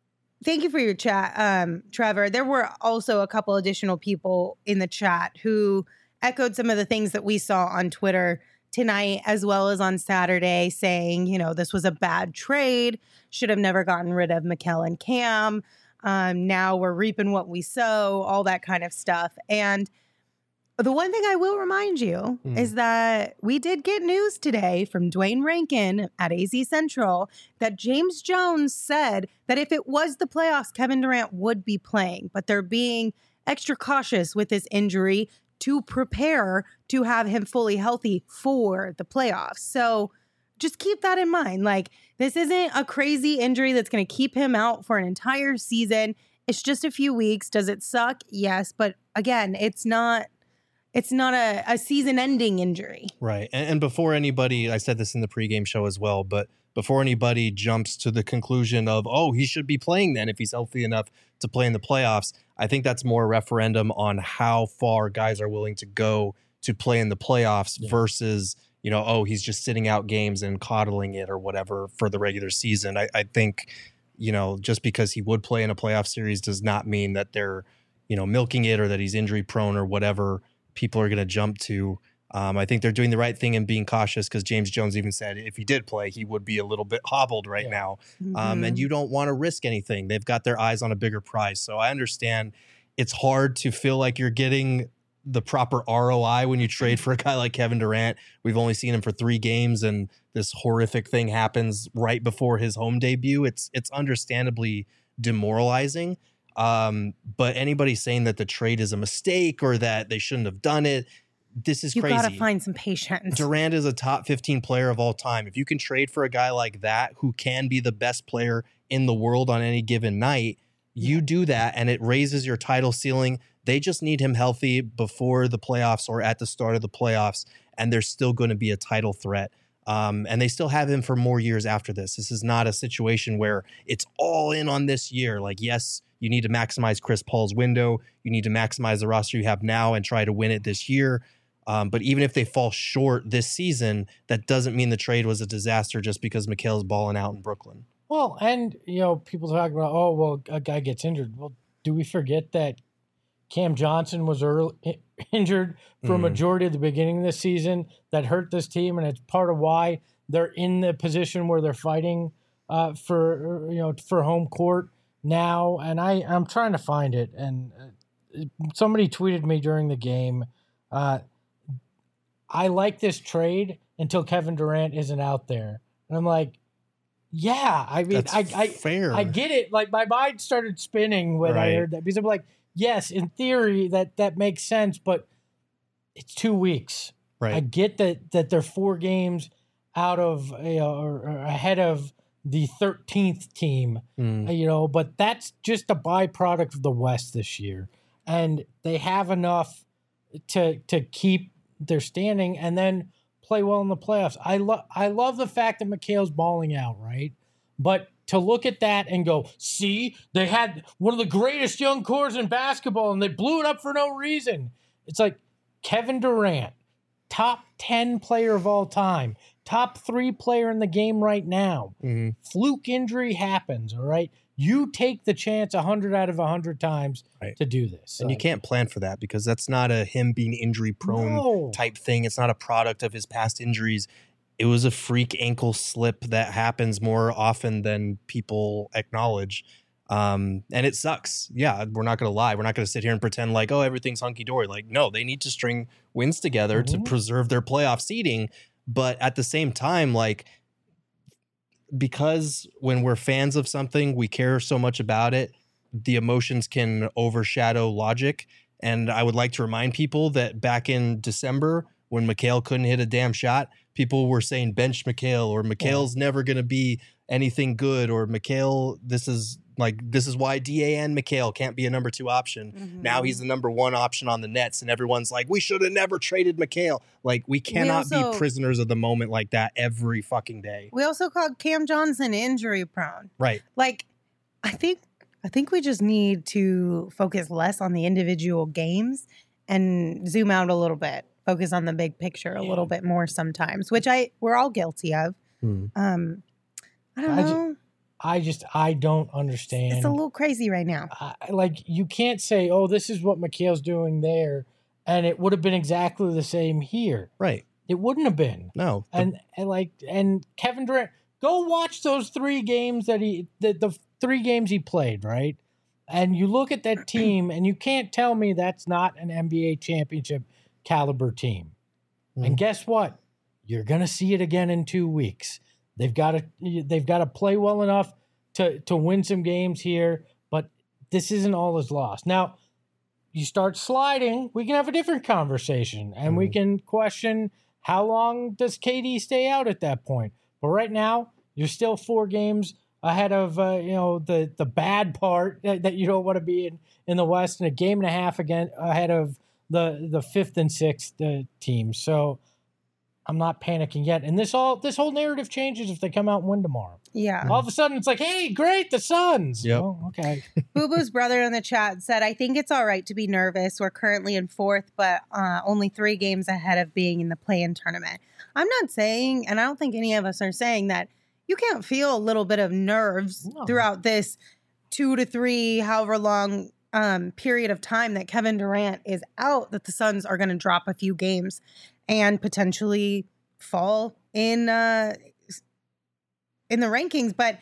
A: thank you for your chat, um, Trevor. There were also a couple additional people in the chat who echoed some of the things that we saw on Twitter tonight, as well as on Saturday, saying, you know, this was a bad trade, should have never gotten rid of Mikal and Cam. Um, now we're reaping what we sow, all that kind of stuff. And the one thing I will remind you mm. is that we did get news today from Dwayne Rankin at A Z Central that James Jones said that if it was the playoffs, Kevin Durant would be playing, but they're being extra cautious with this injury to prepare to have him fully healthy for the playoffs. So just keep that in mind. Like, this isn't a crazy injury that's going to keep him out for an entire season. It's just a few weeks. Does it suck? Yes. But again, it's not, it's not a, a season-ending injury.
C: Right. And, and before anybody, I said this in the pregame show as well, but before anybody jumps to the conclusion of, oh, he should be playing then if he's healthy enough to play in the playoffs, I think that's more a referendum on how far guys are willing to go to play in the playoffs yeah. versus, you know, oh, he's just sitting out games and coddling it or whatever for the regular season. I, I think, you know, just because he would play in a playoff series does not mean that they're, you know, milking it or that he's injury prone or whatever people are going to jump to. Um, I think they're doing the right thing and being cautious because James Jones even said if he did play, he would be a little bit hobbled right yeah. now. Mm-hmm. Um, and you don't want to risk anything. They've got their eyes on a bigger prize. So I understand it's hard to feel like you're getting the proper R O I when you trade for a guy like Kevin Durant. We've only seen him for three games and this horrific thing happens right before his home debut. It's it's understandably demoralizing. Um, but anybody saying that the trade is a mistake or that they shouldn't have done it, this is
A: you
C: crazy.
A: You got to find some patience.
C: Durant is a top fifteen player of all time. If you can trade for a guy like that who can be the best player in the world on any given night, you do that and it raises your title ceiling. They just need him healthy before the playoffs or at the start of the playoffs, and there's still going to be a title threat. Um, and they still have him for more years after this. This is not a situation where it's all in on this year. Like, yes, you need to maximize Chris Paul's window. You need to maximize the roster you have now and try to win it this year. Um, but even if they fall short this season, that doesn't mean the trade was a disaster just because Mikal's balling out in Brooklyn.
B: Well, and, you know, people talk about, oh, well, a guy gets injured. Well, do we forget that Cam Johnson was early, injured for a majority of the beginning of this season that hurt this team, and it's part of why they're in the position where they're fighting uh, for, you know, for home court now. And I, I'm trying to find it, and somebody tweeted me during the game, uh, I like this trade until Kevin Durant isn't out there. And I'm like, yeah, I mean,
C: That's
B: I, I,
C: fair.
B: I get it. Like, my mind started spinning when
C: right.
B: I heard that, because I'm like, yes, in theory, that, that makes sense, but it's two weeks.
C: Right.
B: I get that that they're four games out of, you know, or, or ahead of the thirteenth team, mm. you know, but that's just a byproduct of the West this year. And they have enough to to keep their standing and then play well in the playoffs. I love I love the fact that Mikal's balling out, right? But to look at that and go, see, they had one of the greatest young cores in basketball and they blew it up for no reason. It's like Kevin Durant, top ten player of all time, top three player in the game right now. Mm-hmm. Fluke injury happens, all right? You take the chance one hundred out of one hundred times right. to do this.
C: And
B: like,
C: you can't plan for that because that's not a him being injury prone
B: no.
C: type thing. It's not a product of his past injuries. It was a freak ankle slip that happens more often than people acknowledge. Um, and it sucks. Yeah, we're not going to lie. We're not going to sit here and pretend like, oh, everything's hunky-dory. Like, no, they need to string wins together mm-hmm. to preserve their playoff seeding. But at the same time, like, because when we're fans of something, we care so much about it, the emotions can overshadow logic. And I would like to remind people that back in December, when Mikal couldn't hit a damn shot, people were saying bench Mikal or Mikal's yeah. never going to be anything good or Mikal, this is like, this is why D A N Mikal can't be a number two option. Mm-hmm. Now he's the number one option on the Nets and everyone's like, we should have never traded Mikal. Like, we cannot we also, be prisoners of the moment like that every fucking day.
A: We also called Cam Johnson injury prone.
C: Right.
A: Like, I think, I think we just need to focus less on the individual games and zoom out a little bit. Focus on the big picture a yeah. little bit more sometimes, which I we're all guilty of. Hmm. Um, I don't
B: I
A: know.
B: Ju- I just I don't understand.
A: It's a little crazy right now.
B: I, like you can't say, oh, this is what Mikhail's doing there, and it would have been exactly the same here.
C: Right.
B: It wouldn't have been.
C: No. The,
B: And and like and Kevin Durant, go watch those three games that he the, the three games he played, right? And you look at that team, and you can't tell me that's not an N B A championship caliber team. Mm. And guess what? You're gonna see it again in two weeks. They've got to they've got to play well enough to to win some games here, but this isn't all is lost. Now, you start sliding, we can have a different conversation, and mm. we can question how long does K D stay out at that point. But right now, you're still four games ahead of uh, you know the the bad part that, that you don't want to be in in the West, and a game and a half again ahead of the the fifth and sixth uh, teams. So I'm not panicking yet. And this all this whole narrative changes if they come out and win tomorrow.
A: Yeah.
B: All of a sudden, it's like, hey, great, the Suns.
C: Yep.
B: Oh, okay.
A: Boo Boo's brother in the chat said, I think it's all right to be nervous. We're currently in fourth, but uh, only three games ahead of being in the play-in tournament. I'm not saying, and I don't think any of us are saying that you can't feel a little bit of nerves no. throughout this two to three, however long um, period of time that Kevin Durant is out, that the Suns are going to drop a few games and potentially fall in uh, in the rankings. But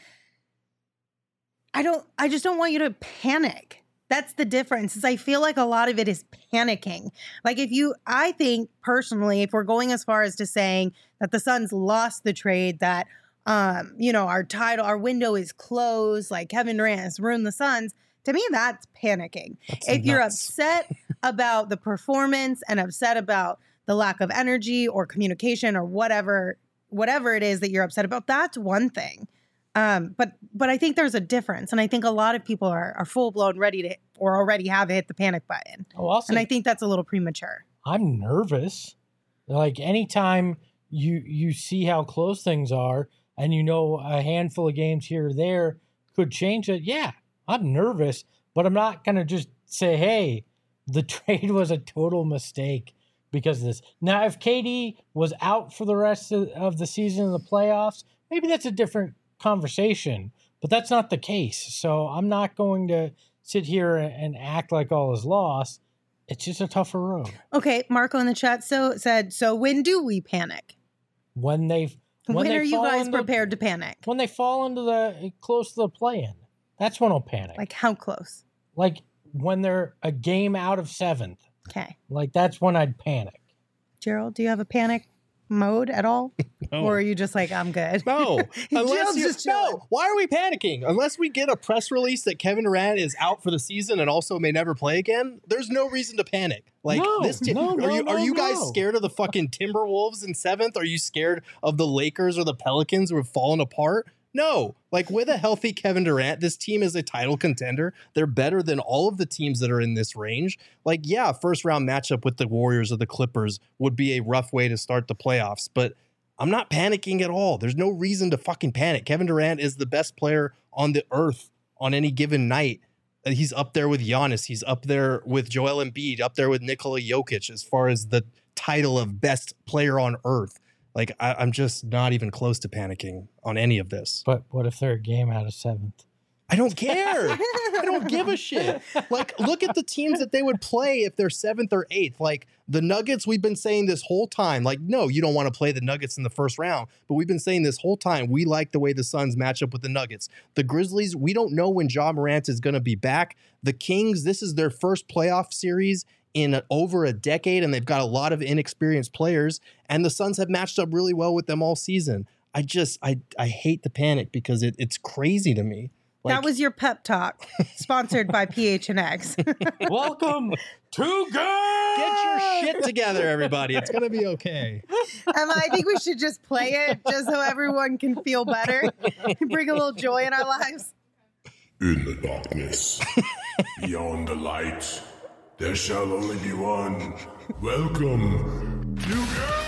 A: I don't. I just don't want you to panic. That's the difference. Is I feel like a lot of it is panicking. Like if you, I think personally, if we're going as far as to saying that the Suns lost the trade, that um, you know, our title, our window is closed, like Kevin Durant has ruined the Suns. To me, that's panicking.
C: That's
A: if
C: nuts.
A: You're upset about the performance and upset about the lack of energy or communication or whatever, whatever it is that you're upset about, that's one thing. Um, but but I think there's a difference. And I think a lot of people are, are full blown ready to or already have hit the panic button.
B: Oh, also,
A: and I think that's a little premature.
B: I'm nervous. Like anytime you you see how close things are and you know a handful of games here or there could change it, yeah, I'm nervous. But I'm not going to just say, hey, the trade was a total mistake because of this. Now, if K D was out for the rest of, of the season in the playoffs, maybe that's a different conversation, but that's not the case. So I'm not going to sit here and act like all is lost. It's just a tougher road.
A: Okay, Marco in the chat so said, so when do we panic?
B: When they when,
A: when
B: they
A: are you guys
B: into,
A: prepared to panic?
B: When they fall into the close to the play-in. That's when I'll panic.
A: Like how close?
B: Like when they're a game out of seventh.
A: Okay.
B: Like that's when I'd panic.
A: Gerald, do you have a panic mode at all?
C: No.
A: Or are you just like, I'm good?
C: No. Unless you,
A: just chilling.
C: no. Why are we panicking? Unless we get a press release that Kevin Durant is out for the season and also may never play again, there's no reason to panic. Like
B: no,
C: this t-
B: no,
C: are
B: no,
C: you
B: no,
C: are you guys
B: no.
C: scared of the fucking Timberwolves in seventh? Are you scared of the Lakers or the Pelicans who have fallen apart? No, like with a healthy Kevin Durant, this team is a title contender. They're better than all of the teams that are in this range. Like, yeah, first round matchup with the Warriors or the Clippers would be a rough way to start the playoffs, but I'm not panicking at all. There's no reason to fucking panic. Kevin Durant is the best player on the earth on any given night. He's up there with Giannis. He's up there with Joel Embiid, up there with Nikola Jokic as far as the title of best player on earth. Like, I, I'm just not even close to panicking on any of this.
B: But what if they're a game out of seventh?
C: I don't care. I don't give a shit. Like, look at the teams that they would play if they're seventh or eighth. Like, the Nuggets, we've been saying this whole time. Like, no, you don't want to play the Nuggets in the first round. But we've been saying this whole time, we like the way the Suns match up with the Nuggets. The Grizzlies, we don't know when Ja Morant is going to be back. The Kings, this is their first playoff series in over a decade, and they've got a lot of inexperienced players, and the Suns have matched up really well with them all season. I just, I I hate the panic because it, it's crazy to me. Like,
A: that was your pep talk, sponsored by P H N X.
B: Welcome to good.
C: Get your shit together, everybody. It's going to be okay.
A: Emma, I think we should just play it just so everyone can feel better and bring a little joy in our lives.
E: In the darkness, beyond the light, there shall only be one. Welcome to God!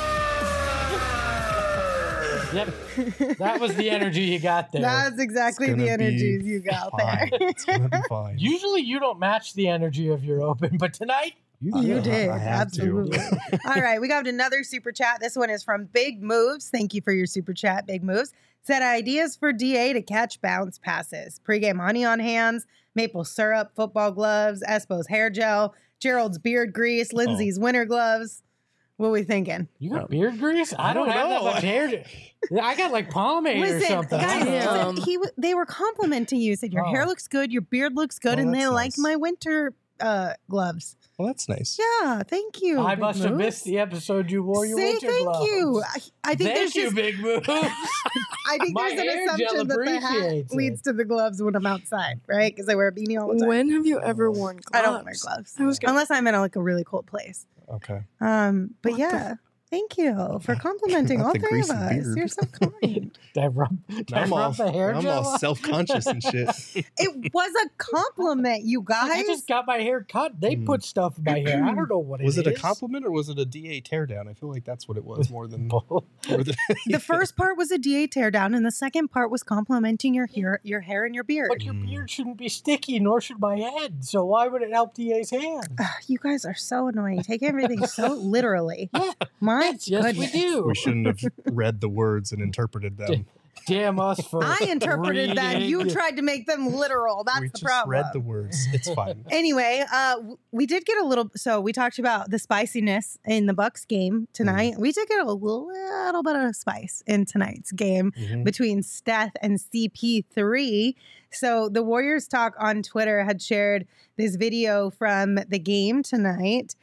B: Yep. That was the energy you got there.
A: That's exactly the energy you got
C: fine.
A: there.
C: It's going to be fine.
B: Usually you don't match the energy of your open, but tonight You,
A: You
B: did.
A: did.
C: I have to.
A: Absolutely. All right. We got another super chat. This one is from Big Moves. Thank you for your super chat, Big Moves. Said ideas for D A to catch bounce passes. Pre-game honey on hands, maple syrup, football gloves, Espo's hair gel, Gerald's beard grease, Lindsay's winter gloves. What are we thinking?
B: You got beard grease? I,
C: I
B: don't,
C: don't
B: have
C: know.
B: that much hair. I got like pomade or
A: Listen,
B: something.
A: guys,
F: Damn.
A: listen, he w- they were complimenting you. Said your
B: Oh.
A: hair looks good, your beard looks good,
C: Oh,
A: and they
C: that's
A: like
C: nice.
A: my winter uh, gloves.
C: Well, that's nice.
A: Yeah, thank you.
B: I
A: Big
B: must have
A: Moves.
B: missed the episode you wore your
A: Say
B: winter
A: thank
B: gloves.
A: you. I, I think
B: Thank
A: there's
B: you,
A: just
B: Big Moves.
A: I think
B: My
A: there's an
B: hair gel
A: assumption that the hat
B: appreciates it.
A: leads to the gloves when I'm outside, right? Because I wear a beanie all the time.
F: When have you ever worn gloves?
A: I don't wear gloves
F: I was gonna
A: unless I'm in a, like a really cold place.
C: Okay.
A: Um, but
F: What the
A: yeah, thank you for complimenting
C: Not
A: all
C: the
A: three of
C: greasy
A: us.
C: beard.
A: You're so kind.
B: Did I rub, did I
C: I'm
B: rub
C: all,
B: the hair
C: I'm
B: gel
C: all
B: on?
C: self-conscious and shit.
A: It was a compliment, you guys.
B: I just got my hair cut. They
C: Mm.
B: put stuff in my hair. I don't know what
C: Was
B: it
C: it
B: is.
C: a compliment or was it a D A teardown? I feel like that's what it was more than.
B: Both.
C: more than
A: The
C: anything.
A: first part was a D A teardown, and the second part was complimenting your hair, your hair and your beard.
B: But your
C: Mm.
B: beard shouldn't be sticky, nor should my head. So why would it help D A's hand?
A: Ugh, you guys are so annoying. Take everything so literally. My
B: Yes, yes, we
A: goodness.
B: do.
C: We shouldn't have read the words and interpreted them.
B: Damn us for
A: I interpreted that. You
B: reading.
A: tried to make them literal. That's
C: we
A: the
C: just
A: problem.
C: read the words. It's fine.
A: Anyway, uh, w- we did get a little. So we talked about the spiciness in the Bucks game tonight. We did get a little, little bit of spice in tonight's game
C: Mhm.
A: between Steph and C P three. So the Warriors Talk on Twitter had shared this video from the game tonight,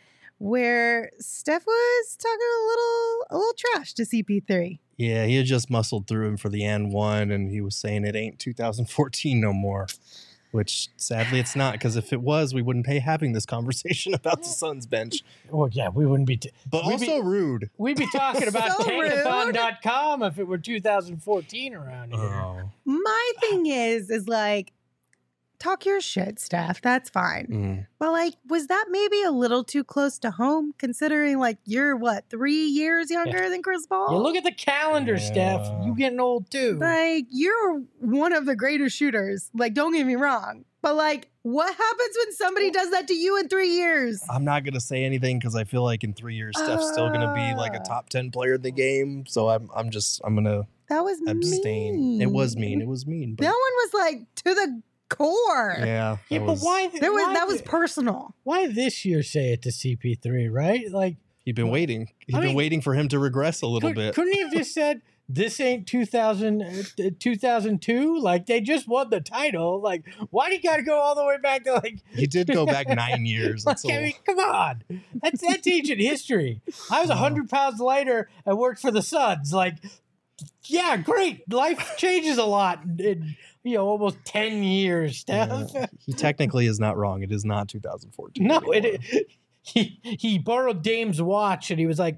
A: where Steph was talking a little, a little trash to C P three.
C: Yeah, he had just muscled through him for the and one, and he was saying it ain't two thousand fourteen no more. Which sadly it's not, because if it was, we wouldn't be having this conversation about the Suns bench.
B: Well, yeah, we wouldn't be. T-
C: But
B: We'd
C: also
B: be-
C: rude.
B: we'd be talking about
A: So
B: tankathon dot com if it were two thousand fourteen around here.
C: Oh.
A: My thing is, is like, talk your shit, Steph. That's fine.
C: Mm.
A: But like, was that maybe a little too close to home, considering like you're what, three years younger than Chris Paul?
B: You look at the calendar, Steph.
C: Yeah.
B: You getting old too.
A: like you're one of the greatest shooters. Like, don't get me wrong, but like, what happens when somebody does that to you in three years?
C: I'm not going to say anything because I feel like in three years, Steph's still going to be like a
A: Ah.
C: top ten player in the game. So I'm I'm just, I'm going to
A: That was
C: abstain.
A: mean.
C: It was mean. It was mean. But
A: That one was like to the core.
C: yeah.
B: yeah,
C: that
B: but
C: was-
B: why?
A: There was
B: why
A: that was
B: thi-
A: personal.
B: why this year say it to C P three, right? Like,
C: He'd been waiting. He'd
B: I
C: been
B: mean,
C: waiting for him to regress a little
B: could,
C: bit.
B: couldn't he have just said, this ain't two thousand, uh, two thousand two? Like, they just won the title. Like, why do you got to go all the way back to like,
C: He did go back nine years.
B: like,
C: That's a
B: I mean, come on. That's, that's ancient history. I was one hundred pounds lighter and worked for the Suns. Like, yeah, great. Life changes a lot in, in you know, almost ten years, Steph.
C: Yeah. He technically is not wrong. It is not two thousand fourteen.
B: No,
C: anymore.
B: it, he he borrowed Dame's watch and he was like,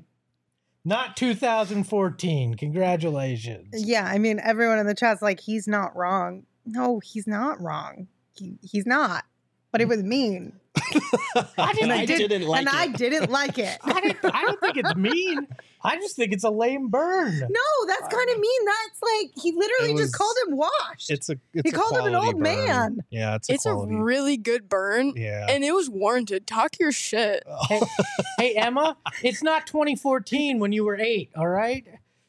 B: not two thousand fourteen. Congratulations.
A: Yeah, I mean, everyone in the chat's like, he's not wrong. No, he's not wrong. He, he's not. But it was mean.
B: I, just,
C: And
B: I,
C: I
B: did,
C: didn't like
A: and
C: it.
A: I didn't like it.
B: I, didn't, I don't think it's mean. I just think it's a lame burn.
A: No, that's kind of mean. That's like, he literally
C: It
A: just
C: was-
A: called him washed.
C: It's a. It's
A: He
C: a
A: called him an
C: quality
A: old
C: burn.
A: man.
C: Yeah, it's a
F: It's a
C: quality.
F: really good burn,
C: yeah.
F: and it was warranted. Talk your shit.
B: Hey, hey, Emma, it's not twenty fourteen when you were eight, all right?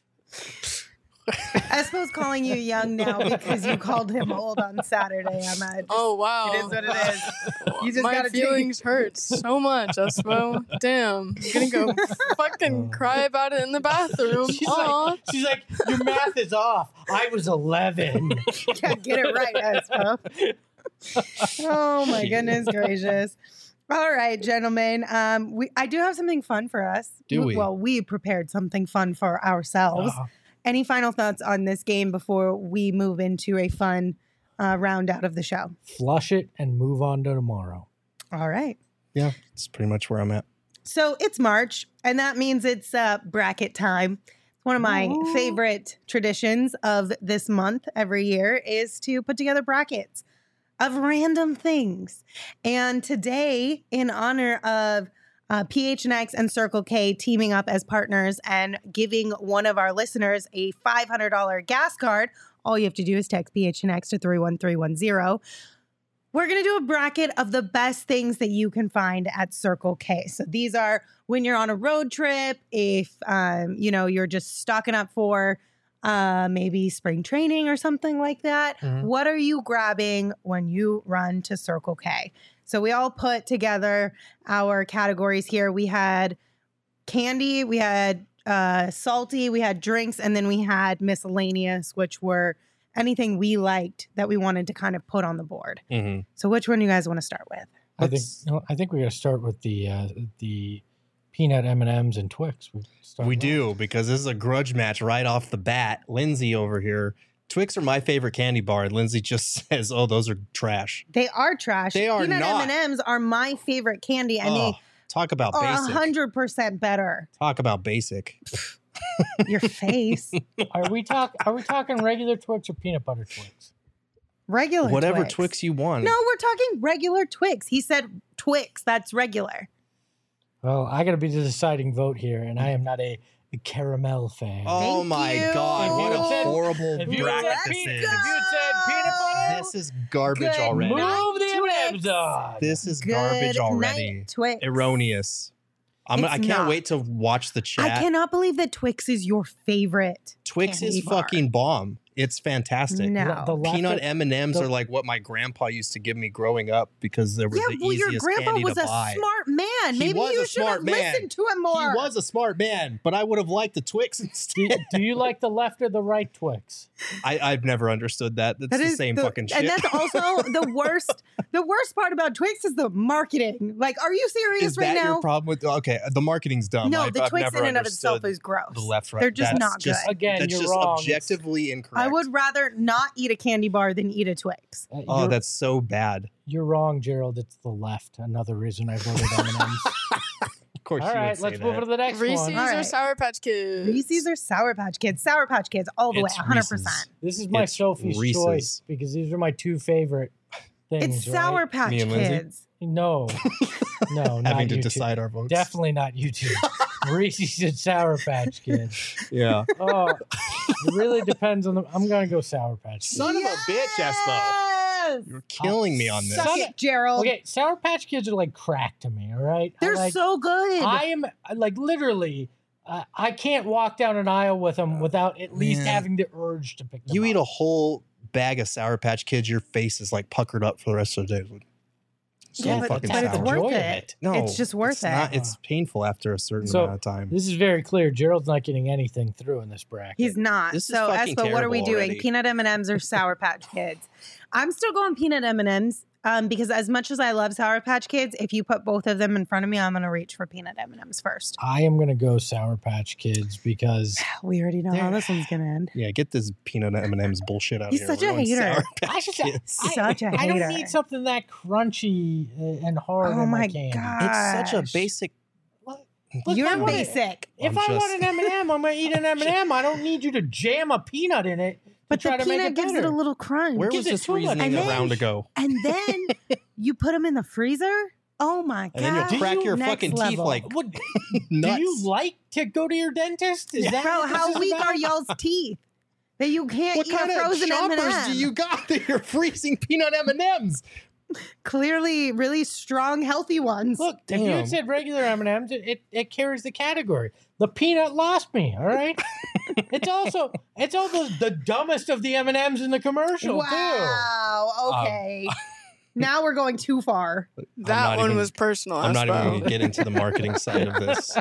A: Espo's calling you young now because you called him old on Saturday, Emma. It,
F: Oh wow,
A: it is what it is. You just
F: my
A: gotta take-
F: feelings hurt so much, Espo. Damn, I'm gonna go fucking cry about it in the bathroom.
B: She's
F: Aw.
B: like, she's like, your math is off. I was eleven.
A: Yeah, get it right, Espo. Oh my goodness gracious. All right, gentlemen. Um, we I do have something fun for us.
C: Do we?
A: Well, we prepared something fun for ourselves.
B: Uh,
A: Any final thoughts on this game before we move into a fun uh, round out of the show?
B: flush it and move on to tomorrow.
A: All right.
C: Yeah, it's pretty much where I'm at.
A: So it's March, and that means it's uh, bracket time. One of my
B: Ooh.
A: favorite traditions of this month every year is to put together brackets of random things. And today, in honor of uh, P H N X and Circle K teaming up as partners and giving one of our listeners a five hundred dollars gas card, all you have to do is text P H N X to three one three one zero. we're going to do a bracket of the best things that you can find at Circle K. So these are when you're on a road trip, if, um, you know, you're just stocking up for uh, maybe spring training or something like that.
C: Mhm.
A: What are you grabbing when you run to Circle K? So we all put together our categories here. We had candy, we had uh, salty, we had drinks, and then we had miscellaneous, which were anything we liked that we wanted to kind of put on the board.
C: Mm-hmm.
A: So which one do you guys want to start with?
B: I think
C: Let's-
B: no, I think we got to start with the uh, the peanut M and M's and Twix. We, start
C: We
B: with.
C: do, because this is a grudge match right off the bat. Lindsay over here. Twix are my favorite candy bar, and Lindsay just says, oh, those are trash.
A: They are trash.
C: They are
A: Peanut
C: not.
A: M and M's are my favorite candy, and
C: oh, talk
A: they
C: about
A: are
C: basic.
A: one hundred percent better.
C: Talk about basic.
A: Your face.
B: Are we talk? Are we talking regular Twix or peanut butter Twix?
A: Regular
C: Whatever
A: Twix.
C: Twix you want.
A: No, we're talking regular Twix. He said Twix. That's regular.
B: Well, I got to be the deciding vote here, and I am not a caramel fan.
C: Oh
A: Thank
C: my
A: you.
C: God. What a
B: If you had-
C: horrible
B: if you had
C: bracket
B: said
C: this
B: pe-
C: is.
B: if you had said peanut butter,
C: This is garbage
A: Good
C: already.
A: night.
B: move the M and M's
A: Twix.
B: on.
C: This is
A: Good
C: garbage already.
A: night, Twix.
C: Erroneous. I'm,
A: It's
C: I can't
A: not.
C: wait to watch the chat.
A: I cannot believe that Twix is your favorite.
C: Twix
A: candy
C: is
A: bar.
C: fucking bomb. It's fantastic.
A: No.
B: The left
C: Peanut
B: of-
C: M and M's
B: the-
C: are like what my grandpa used to give me growing up because they were
A: Yeah,
C: the
A: well, your
C: easiest
A: grandpa
C: candy
A: was
C: to
A: a
C: buy.
A: smart man.
C: He
A: Maybe
C: was
A: you
C: a
A: should
C: smart
A: have
C: man.
A: listened to him more.
C: He was a smart man, but I would have liked the Twix
B: do,
C: instead.
B: do you like the left or the right Twix?
C: I, I've never understood that. That's
A: That
C: the
A: is
C: same
A: the-
C: fucking shit.
A: And that's also the worst. The worst part about Twix is the marketing. Like, are you serious
C: is
A: right
C: that
A: now?
C: your problem with? Okay, the marketing's dumb.
A: No,
C: I've,
A: the
C: I've
A: Twix
C: never
A: in and of
C: understood
A: itself is gross.
C: the left right.
A: They're just
C: That's
A: not
C: just,
A: good.
B: Again,
C: That's
B: you're
C: just
B: wrong.
C: objectively incorrect.
A: I would rather not eat a candy bar than eat a Twix.
B: Uh,
C: Oh,
B: you're,
C: that's so bad.
B: you're wrong, Gerald. It's the left. Another reason I voted M and M's.
C: Of course,
B: All
C: you
B: right,
C: would say
B: let's
C: that.
B: move on to the next
F: Reese's
B: one.
A: All
F: or
A: right.
F: Sour Patch Kids?
A: Reese's or Sour Patch Kids? Sour Patch Kids all the
C: It's
A: way, one hundred
C: Reese's.
A: percent.
B: This is my
C: It's
B: Sophie's
C: Reese's.
B: choice because these are my two favorite things.
A: It's Sour
B: right?
A: Patch
C: Me and Lindsay?
A: Kids.
B: No, no, not
C: Having to
B: YouTube.
C: decide our votes.
B: Definitely not YouTube. Reese's and Sour Patch Kids.
C: Yeah.
B: Oh, it really depends on the. I'm gonna go Sour Patch Kids.
C: Son of a bitch, Espo.
A: Yes!
C: You're killing me on this.
A: Suck
B: Son
A: it,
B: of-
A: Gerald.
B: Okay, Sour Patch Kids are like crack to me. All right, I
A: They're
B: like,
A: so good.
B: I am like literally. Uh, I can't walk down an aisle with them without at least
C: Man.
B: having the urge to pick them
C: You
B: up.
C: eat a whole bag of Sour Patch Kids, your face is like puckered up for the rest of the day. So
A: yeah, but,
C: fucking
A: but it's
C: sour.
A: worth
B: Joy of
A: it.
B: it.
C: No,
A: it's just worth
C: it's
A: it.
C: Not, it's painful after a certain
B: So,
C: amount of time.
B: This is very clear. Gerald's not getting anything through in this bracket.
A: He's not.
C: This is
A: so,
C: fucking
A: Espo, what are we
C: terrible
A: doing?
C: already.
A: Peanut M and M's or Sour Patch Kids? I'm still going peanut M and M's um, because as much as I love Sour Patch Kids, if you put both of them in front of me, I'm going to reach for peanut M and M's first.
B: I am gonna go Sour Patch Kids because
A: We already know how
B: They're-
A: this one's going to end.
C: Yeah, get this peanut M and M's bullshit out
A: He's
C: of here.
A: such
C: We're
A: a
C: going
A: hater.
C: Sour
B: I
C: Patch
B: just
C: Kids.
B: I,
A: Such a
B: I don't
A: hater.
B: need something that crunchy uh, and hard
A: Oh
B: in my,
A: my
B: candy.
A: God.
C: It's such a
A: Gosh.
C: basic.
B: Look, if
A: You're
B: I want a-
A: basic.
B: If
C: I'm
B: I
C: just-
B: want an M and M, I'm gonna eat an M and M. I don't need you to jam a peanut in it.
A: But
B: to try
A: the
B: to make
A: peanut
B: it
A: gives it
B: better.
A: a little crunch.
C: Where
B: Gives
C: was
B: it
C: this
B: too much.
C: reasoning
A: And
C: a round
A: then-
C: ago?
A: And then you put them in the freezer. Oh my God.
C: And then you'll
B: Do
C: crack
B: you-
C: your
A: Next
C: fucking teeth
A: level.
C: like
B: What, do
C: nuts.
B: you like to go to your dentist? Is that
A: Bro,
B: what this
A: how
B: is
A: weak
B: about?
A: are y'all's teeth that you can't
C: What
A: eat
C: kind
A: a
C: of
A: frozen M and
C: choppers
A: M?
C: do you got that you're freezing peanut M and M's?
A: Clearly, really strong, healthy ones.
B: Look, if you
C: Damn.
B: had said regular M and M's, it, it it carries the category. The peanut lost me. All right, it's also it's also the dumbest of the M and M's in the commercial
A: wow. Okay. now we're going too far.
F: That
C: not
F: one
C: even-
F: was personal.
C: I'm not even
F: Espo.
C: going to get into the marketing side of this.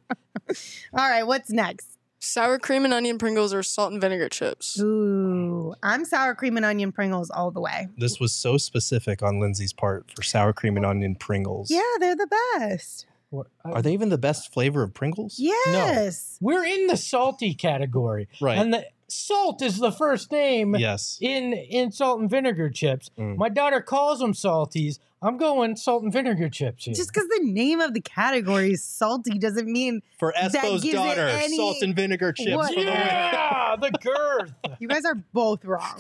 A: All right. What's next?
F: Sour cream and onion Pringles or salt and vinegar chips.
A: Ooh, I'm sour cream and onion Pringles all the way.
C: This was so specific on Lindsay's part for sour cream and onion Pringles.
A: Yeah, they're the best.
B: too.
C: Are they even the best flavor of Pringles?
A: Yes.
B: We're in the salty category,
C: Right.
B: and the salt is the first name
C: Yes.
B: in in salt and vinegar chips.
C: Mm.
B: My daughter calls them salties. I'm going salt and vinegar chips here.
A: Just because the name of the category is salty doesn't mean
C: For
A: That
C: Espo's
A: gives it
C: daughter,
A: any-
C: salt and vinegar chips.
A: What?
C: For the win.
B: yeah, the girth.
A: you guys are both wrong.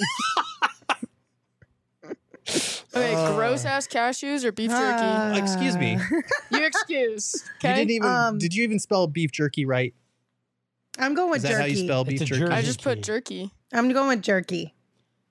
F: Okay,
C: Uh,
F: gross ass cashews or beef jerky.
A: Uh,
C: Excuse me.
F: You excuse.
C: You
F: Okay.
C: didn't even.
A: Um,
C: did you even spell beef jerky right?
A: I'm going with
C: Is that
A: jerky.
C: how you spell beef
B: It's a
C: jerky?
B: jerky.
F: I just put
B: Jerky.
F: jerky.
A: I'm going with jerky.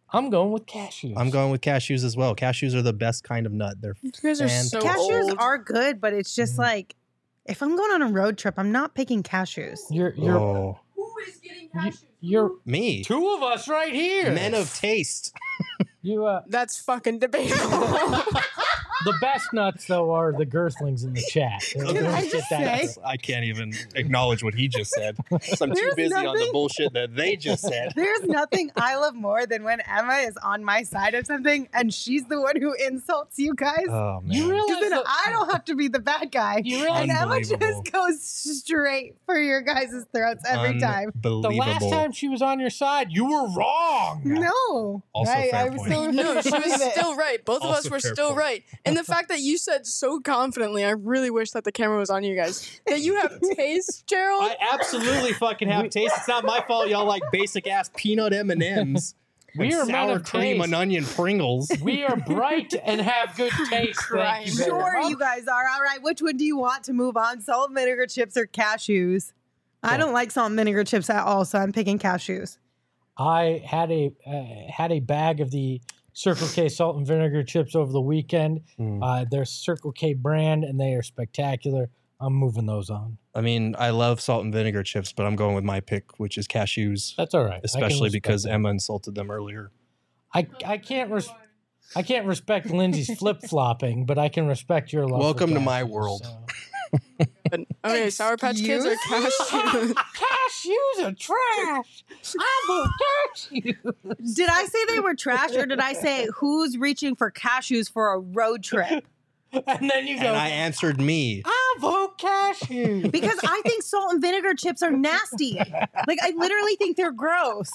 B: I'm going with cashews.
C: I'm going with cashews as well. Cashews are the best kind of nut. They're
F: You guys are so
A: Cashews
F: old.
A: are good, but it's just
B: Mm.
A: like if I'm going on a road trip, I'm not picking cashews.
B: You're you're
C: oh,
F: Who is getting
B: you, you're
C: me.
B: two of us right here.
C: Men of taste.
B: You uh,
F: That's fucking debatable.
B: the best nuts though are the girthlings in the chat. They're-
A: Can
B: they're
A: I
B: just
A: just
B: that-
A: say-
C: I can't even acknowledge what he just said. So I'm too
A: There's
C: busy on the
A: nothing-
C: bullshit that they just said.
A: There's nothing I love more than when Emma is on my side of something and she's the one who insults you guys.
C: Oh man.
B: You
A: Because
B: realize
A: then
B: that-
A: I don't have to be the bad guy.
B: You realize
A: And Emma
C: Unbelievable.
A: just goes straight for your guys' throats every time.
B: the last time she was on your side, you were wrong.
A: No.
C: Also
A: I,
C: fair
A: I
C: point.
A: still
F: no,
A: refuse
F: she
A: to
F: was
A: believe it.
F: still right. Both of
C: Also
F: us were
C: fair
F: still
C: point.
F: right. And the fact that you said so confidently, I really wish that the camera was on you guys. That you have taste, Gerald.
C: I absolutely fucking have taste. It's not my fault. Y'all like basic ass peanut M and M's.
B: We are men
C: sour
B: of
C: cream
B: taste.
C: and onion Pringles.
B: We are bright and have good taste. Thank you very
A: Sure,
B: much.
A: you guys are. All right, which one do you want to move on? Salt and vinegar chips or cashews? I don't like salt and vinegar chips at all, so I'm picking cashews.
B: I had a uh, had a bag of the Circle K salt and vinegar chips over the weekend.
C: Mm.
B: Uh, they're Circle K brand and they are spectacular. I'm moving those on.
C: I mean, I love salt and vinegar chips, but I'm going with my pick, which is cashews.
B: That's all right. I can
C: Especially
B: respect
C: because
B: that.
C: Emma insulted them earlier.
B: I I can't res- I can't respect Lindsay's flip flopping, but I can respect your love. for
C: Welcome to my
B: cashews,
C: world.
B: so.
F: But- okay, Sour Patch Kids or cashews?
B: Cashews are trash. I'm a cashew.
A: Did I say they were trash, or did I say who's reaching for cashews for a road trip?
B: And then you go,
C: And I answered me.
B: I vote cashew.
A: Because I think salt and vinegar chips are nasty. Like, I literally think they're gross.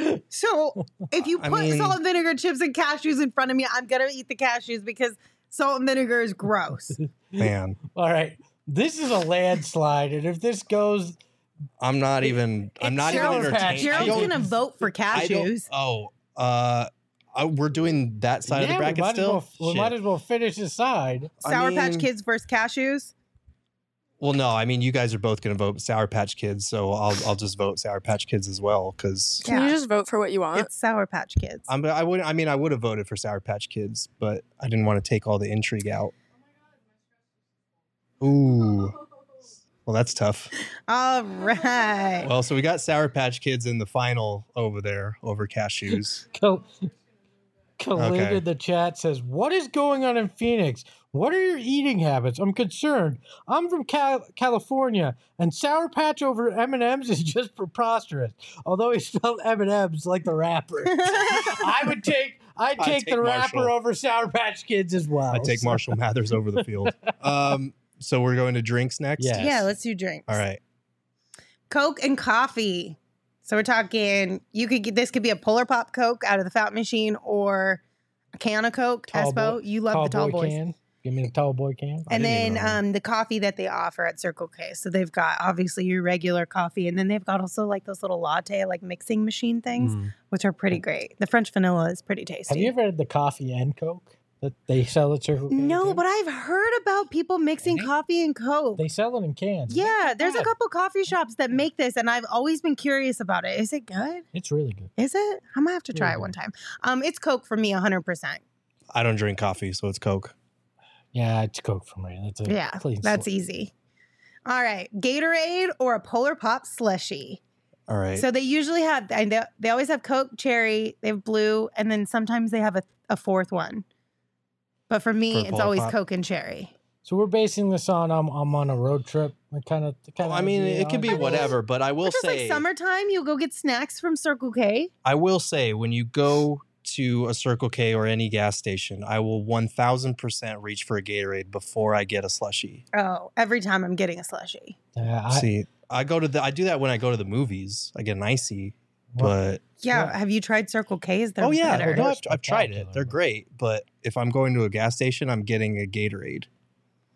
A: So if you
C: I
A: put
C: mean-
A: salt and vinegar chips and cashews in front of me, I'm going to eat the cashews because salt and vinegar is gross.
C: Man,
B: All right. This is a landslide. And if this goes,
C: I'm not even. I'm not even
B: Sour Patch.
C: entertained. I
A: Gerald's
C: don't-
A: going to vote for
C: I don't-
A: cashews.
C: Oh, uh, uh, we're doing that side of the
B: yeah,
C: bracket
B: we might,
C: still.
B: as well, we
C: Shit.
B: might as well finish this side.
C: I
A: Sour Patch
C: mean-
A: Kids versus cashews?
C: Well, no, I mean you guys are both going to vote Sour Patch Kids, so I'll I'll just vote Sour Patch Kids as well because
F: Can you
A: Yeah.
F: just vote for what you want?
A: It's Sour Patch Kids.
C: I'm I would I mean I would have voted for Sour Patch Kids, but I didn't want to take all the intrigue out. Ooh, well that's tough.
A: All right.
C: Well, so we got Sour Patch Kids in the final over there over cashews.
B: Kal- Khalid
C: Okay.
B: in the chat says, "What is going on in Phoenix? What are your eating habits? I'm concerned. I'm from Cal- California, and Sour Patch over M and M's is just preposterous. Although he spelled M and M's like the rapper, I would take I'd
C: I'd
B: take,
C: take
B: the rapper
C: Marshall.
B: over Sour Patch Kids as well.
C: I take
B: So-
C: Marshall Mathers over the field. Um, so we're going to drinks next.
B: Yeah.
A: Yeah, let's do drinks.
C: All right.
A: Coke and coffee. So we're talking, you could get, this could be a Polar Pop Coke out of the fountain machine or a can of Coke.
B: Tall
A: Espo,
B: boy-
A: you love the tall
B: boy
A: boys.
B: can. Give me the tall boy can.
C: I
A: And
C: didn't
A: then
C: even know.
A: um, the coffee that they offer at Circle K. So they've got obviously your regular coffee, and then they've got also like those little latte, like mixing machine things,
C: Mm.
A: which are pretty great. The French vanilla is pretty tasty.
B: Have you ever had the coffee and Coke that they sell at Circle K?
A: no,
B: too?
A: but I've heard about people mixing
B: Really?
A: coffee and Coke.
B: they sell it in cans.
A: yeah, there's a
B: bad.
A: couple coffee shops that make this, and I've always been curious about it. Is it good?
B: It's really good.
A: Is it? I'm gonna have to try
B: Really
A: it one
B: good.
A: time. Um, it's Coke for me, one hundred percent.
C: I don't drink coffee, so it's Coke.
B: Yeah, it's Coke for me. That's a
A: Yeah,
B: clean
A: that's
B: slate.
A: easy. All right, Gatorade or a Polar Pop slushy.
C: All right.
A: So they usually have, and they, they always have Coke, cherry, they have blue, and then sometimes they have a, a fourth one. But for me,
C: For a
A: it's
C: Polar
A: always
C: Pop?
A: Coke and cherry.
B: So we're basing this on I'm I'm on a road trip. Kind of, kind
C: Well,
B: of.
C: I mean, it could be whatever, but I will
A: It's just
C: say,
A: like summertime, you'll go get snacks from Circle K.
C: I will say, when you go to a Circle K or any gas station, I will one thousand percent reach for a Gatorade before I get a slushie.
A: Oh, every time I'm getting a slushy.
B: Yeah, I,
C: See, I go to the, I do that when I go to the movies. I get an icy,
B: well,
C: but
A: Yeah,
B: Yeah.
A: have you tried Circle K's? They're
C: oh yeah,
A: better.
C: no, I've, I've tried it.
B: Spectacular.
C: They're great, but if I'm going to a gas station, I'm getting a Gatorade.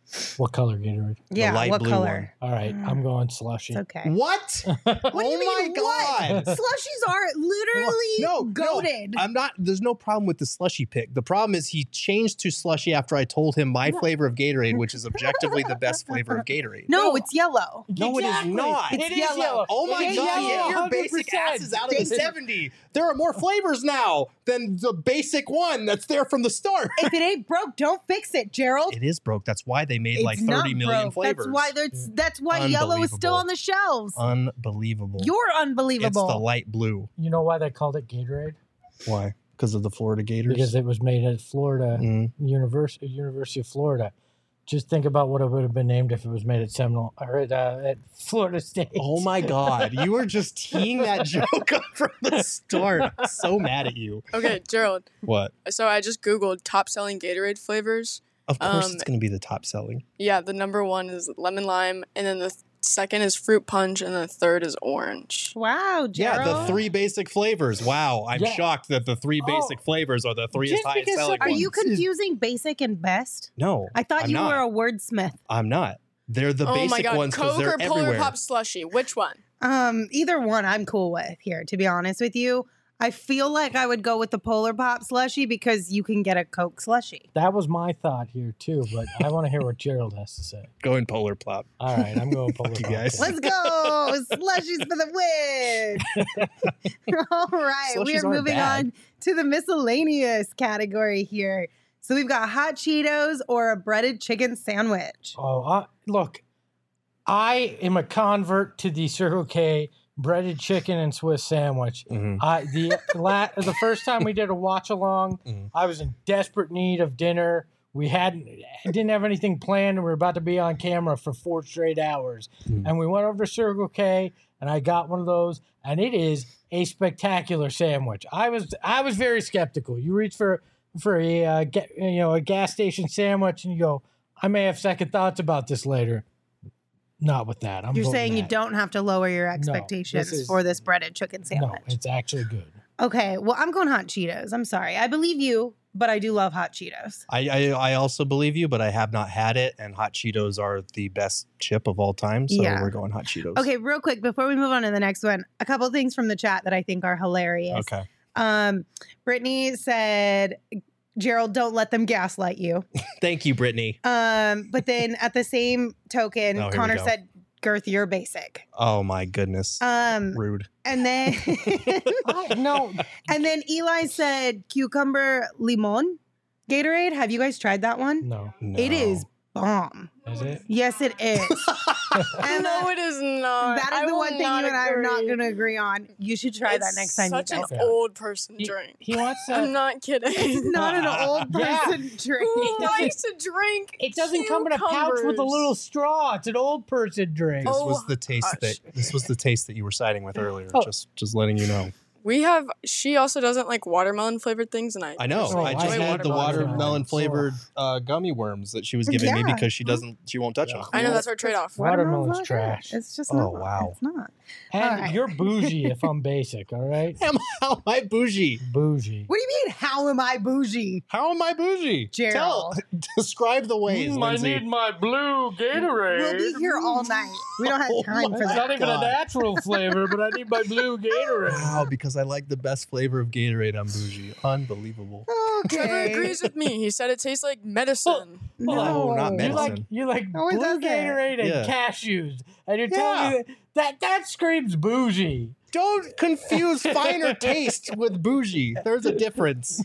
B: What color Gatorade?
A: Yeah,
C: light
A: what
C: blue
A: color?
B: All right, I'm going slushy.
A: It's okay.
C: What?
A: What do you
C: Oh
A: mean?
C: my
A: What?
C: God.
A: Slushies are literally
C: No,
A: goated.
C: no, I'm not. There's no problem with the slushy pick. The problem is he changed to slushy after I told him my flavor of Gatorade, which is objectively the best flavor of Gatorade.
A: no,
F: No.
A: it's yellow.
C: No, it is
B: Exactly.
C: not.
B: It
A: It's
B: is
A: yellow.
B: yellow.
C: Oh my
B: It is
C: God,
B: yellow,
C: get your
B: one hundred percent.
C: basic asses out of the
A: They-
C: seventy. There are more flavors now than the basic one that's there from the start.
A: If it ain't broke, don't fix it, Gerald.
C: It is broke. That's why they made
A: It's
C: like
A: not
C: thirty million
A: broke.
C: flavors.
A: That's why that's that's why yellow is still
C: Unbelievable.
A: on the shelves.
C: Unbelievable.
A: You're
C: It's
A: unbelievable.
C: the light blue.
B: You know why they called it Gatorade?
C: Why? Because of the Florida Gators?
B: Because it was made at Florida
C: Mm.
B: University, University of Florida. Just think about what it would have been named if it was made at Seminole or at, uh, at Florida State.
C: Oh my God. You were just teeing that joke up from the start. I'm so mad at you.
F: Okay, Gerald.
C: What?
F: So I just Googled top selling Gatorade flavors.
C: Of course
F: Um,
C: it's going to be the top selling.
F: Yeah, the number one is lemon lime, and then the th- second is fruit punch, and the third is orange.
A: Wow, Gerald.
C: Yeah, the three basic flavors. Wow. I'm
B: Yeah.
C: shocked that the three
B: Oh.
C: basic flavors are the three
B: Just
C: highest
B: because
C: selling
A: Are
C: ones.
A: you confusing basic and best?
C: No.
A: I thought
C: I'm
A: you
C: not.
A: were a wordsmith.
C: I'm not. They're the
F: oh
C: basic
F: my god,
C: ones because
F: Coke
C: they're
F: or Polar
C: everywhere.
F: Pop slushy? Which one?
A: Um, either one I'm cool with here, to be honest with you. I feel like I would go with the Polar Pop slushy because you can get a Coke slushy.
B: That was my thought here too, but I want to hear what Gerald has to say.
C: Going Polar Plop.
B: All right, I'm going Polar
C: Fuck you
B: Pop.
C: guys.
A: Let's go! Slushies for the win! All right, we
C: Slushies
A: are
C: aren't
A: moving
C: bad.
A: on to the miscellaneous category here. So we've got hot Cheetos or a breaded chicken sandwich.
B: Oh, uh, look, I am a convert to the Circle K breaded chicken and Swiss sandwich.
C: Mhm.
B: I the la- the first time we did a watch along,
C: Mhm.
B: I was in desperate need of dinner. We hadn't didn't have anything planned, and we were about to be on camera for four straight hours.
C: Mhm.
B: And we went over to Circle K, and I got one of those, and it is a spectacular sandwich. I was I was very skeptical. You reach for for a uh, ga- you know a gas station sandwich, and you go, I may have second thoughts about this later. Not with that. I'm
A: You're
B: voting
A: saying you
B: that.
A: don't have to lower your expectations
B: is-
A: for this breaded chicken
B: No,
A: sandwich.
B: it's actually good.
A: Okay, well, I'm going hot Cheetos. I'm sorry. I believe you, but I do love hot Cheetos.
C: I, I I also believe you, but I have not had it, and hot Cheetos are the best chip of all time, so
A: Yeah.
C: we're going hot Cheetos.
A: Okay, real quick before we move on to the next one, a couple things from the chat that I think are hilarious.
C: Okay.
A: Um, Brittany said, "Gerald, don't let them gaslight you."
C: Thank you, Brittany.
A: Um, but then at the same token,
C: Oh, here we
A: Connor
C: go.
A: said, "Girth, you're basic."
C: Oh my goodness.
A: Um,
C: Rude.
A: and then
B: I, no,
A: and then Eli said, "Cucumber limon Gatorade." Have you guys tried that one?
B: no.
A: It
C: No.
A: is bomb.
B: Is it?
A: Yes, it is. And
F: no, it is not.
A: that is
F: I
A: the
F: will
A: one thing you
F: not
A: and I are not
F: agree.
A: going to agree on. You should try that
F: It's
A: next time you
F: Such
A: guys
F: an
A: go.
F: old person
B: He,
F: drink.
B: he wants
F: I'm
B: to.
F: not kidding.
A: It's not an old
B: Yeah.
A: person drink.
F: Who likes to drink?
B: It doesn't come in a pouch with a
F: cucumbers?
B: little straw. It's an old person drink.
C: This
F: Oh,
C: was the taste
F: hush.
C: that this was the taste that you were siding with earlier.
B: Oh.
C: Just just letting you know.
F: We have. She also doesn't like watermelon flavored things, and I.
C: I know.
F: personally
B: Oh,
C: I
B: I
C: just
F: enjoy
C: had the
B: watermelon.
C: watermelon flavored uh, gummy worms that she was giving me
A: Yeah.
C: because she doesn't she won't touch
B: Yeah.
C: them.
F: I know that's our trade off.
B: Watermelon's
A: not good.
B: trash.
A: It's just
C: Oh,
A: not.
C: wow.
A: It's not.
B: And
A: All right.
B: you're bougie if I'm basic, all right?
C: Am how am I bougie?
B: Bougie.
A: What do you mean, how am I bougie?
C: How am I bougie?
A: Gerald.
C: Tell, describe the ways,
B: Mm, I
C: Lindsay.
B: need my blue Gatorade.
A: We'll be here all night. We don't have
C: Oh
A: time
C: my
A: for
B: It's
A: that.
B: not even a
C: God.
B: natural flavor, but I need my blue Gatorade.
C: Wow, because I like the best flavor of Gatorade. I'm bougie. Unbelievable.
F: Trevor
A: Okay.
F: agrees with me. He said it tastes like medicine.
C: No, not
B: You
C: medicine.
B: like you like
A: No, it
B: blue
A: doesn't.
B: Gatorade and
C: Yeah.
B: cashews, and you're
C: Yeah.
B: telling me that, that that screams bougie.
C: Don't confuse finer taste with bougie. There's a difference.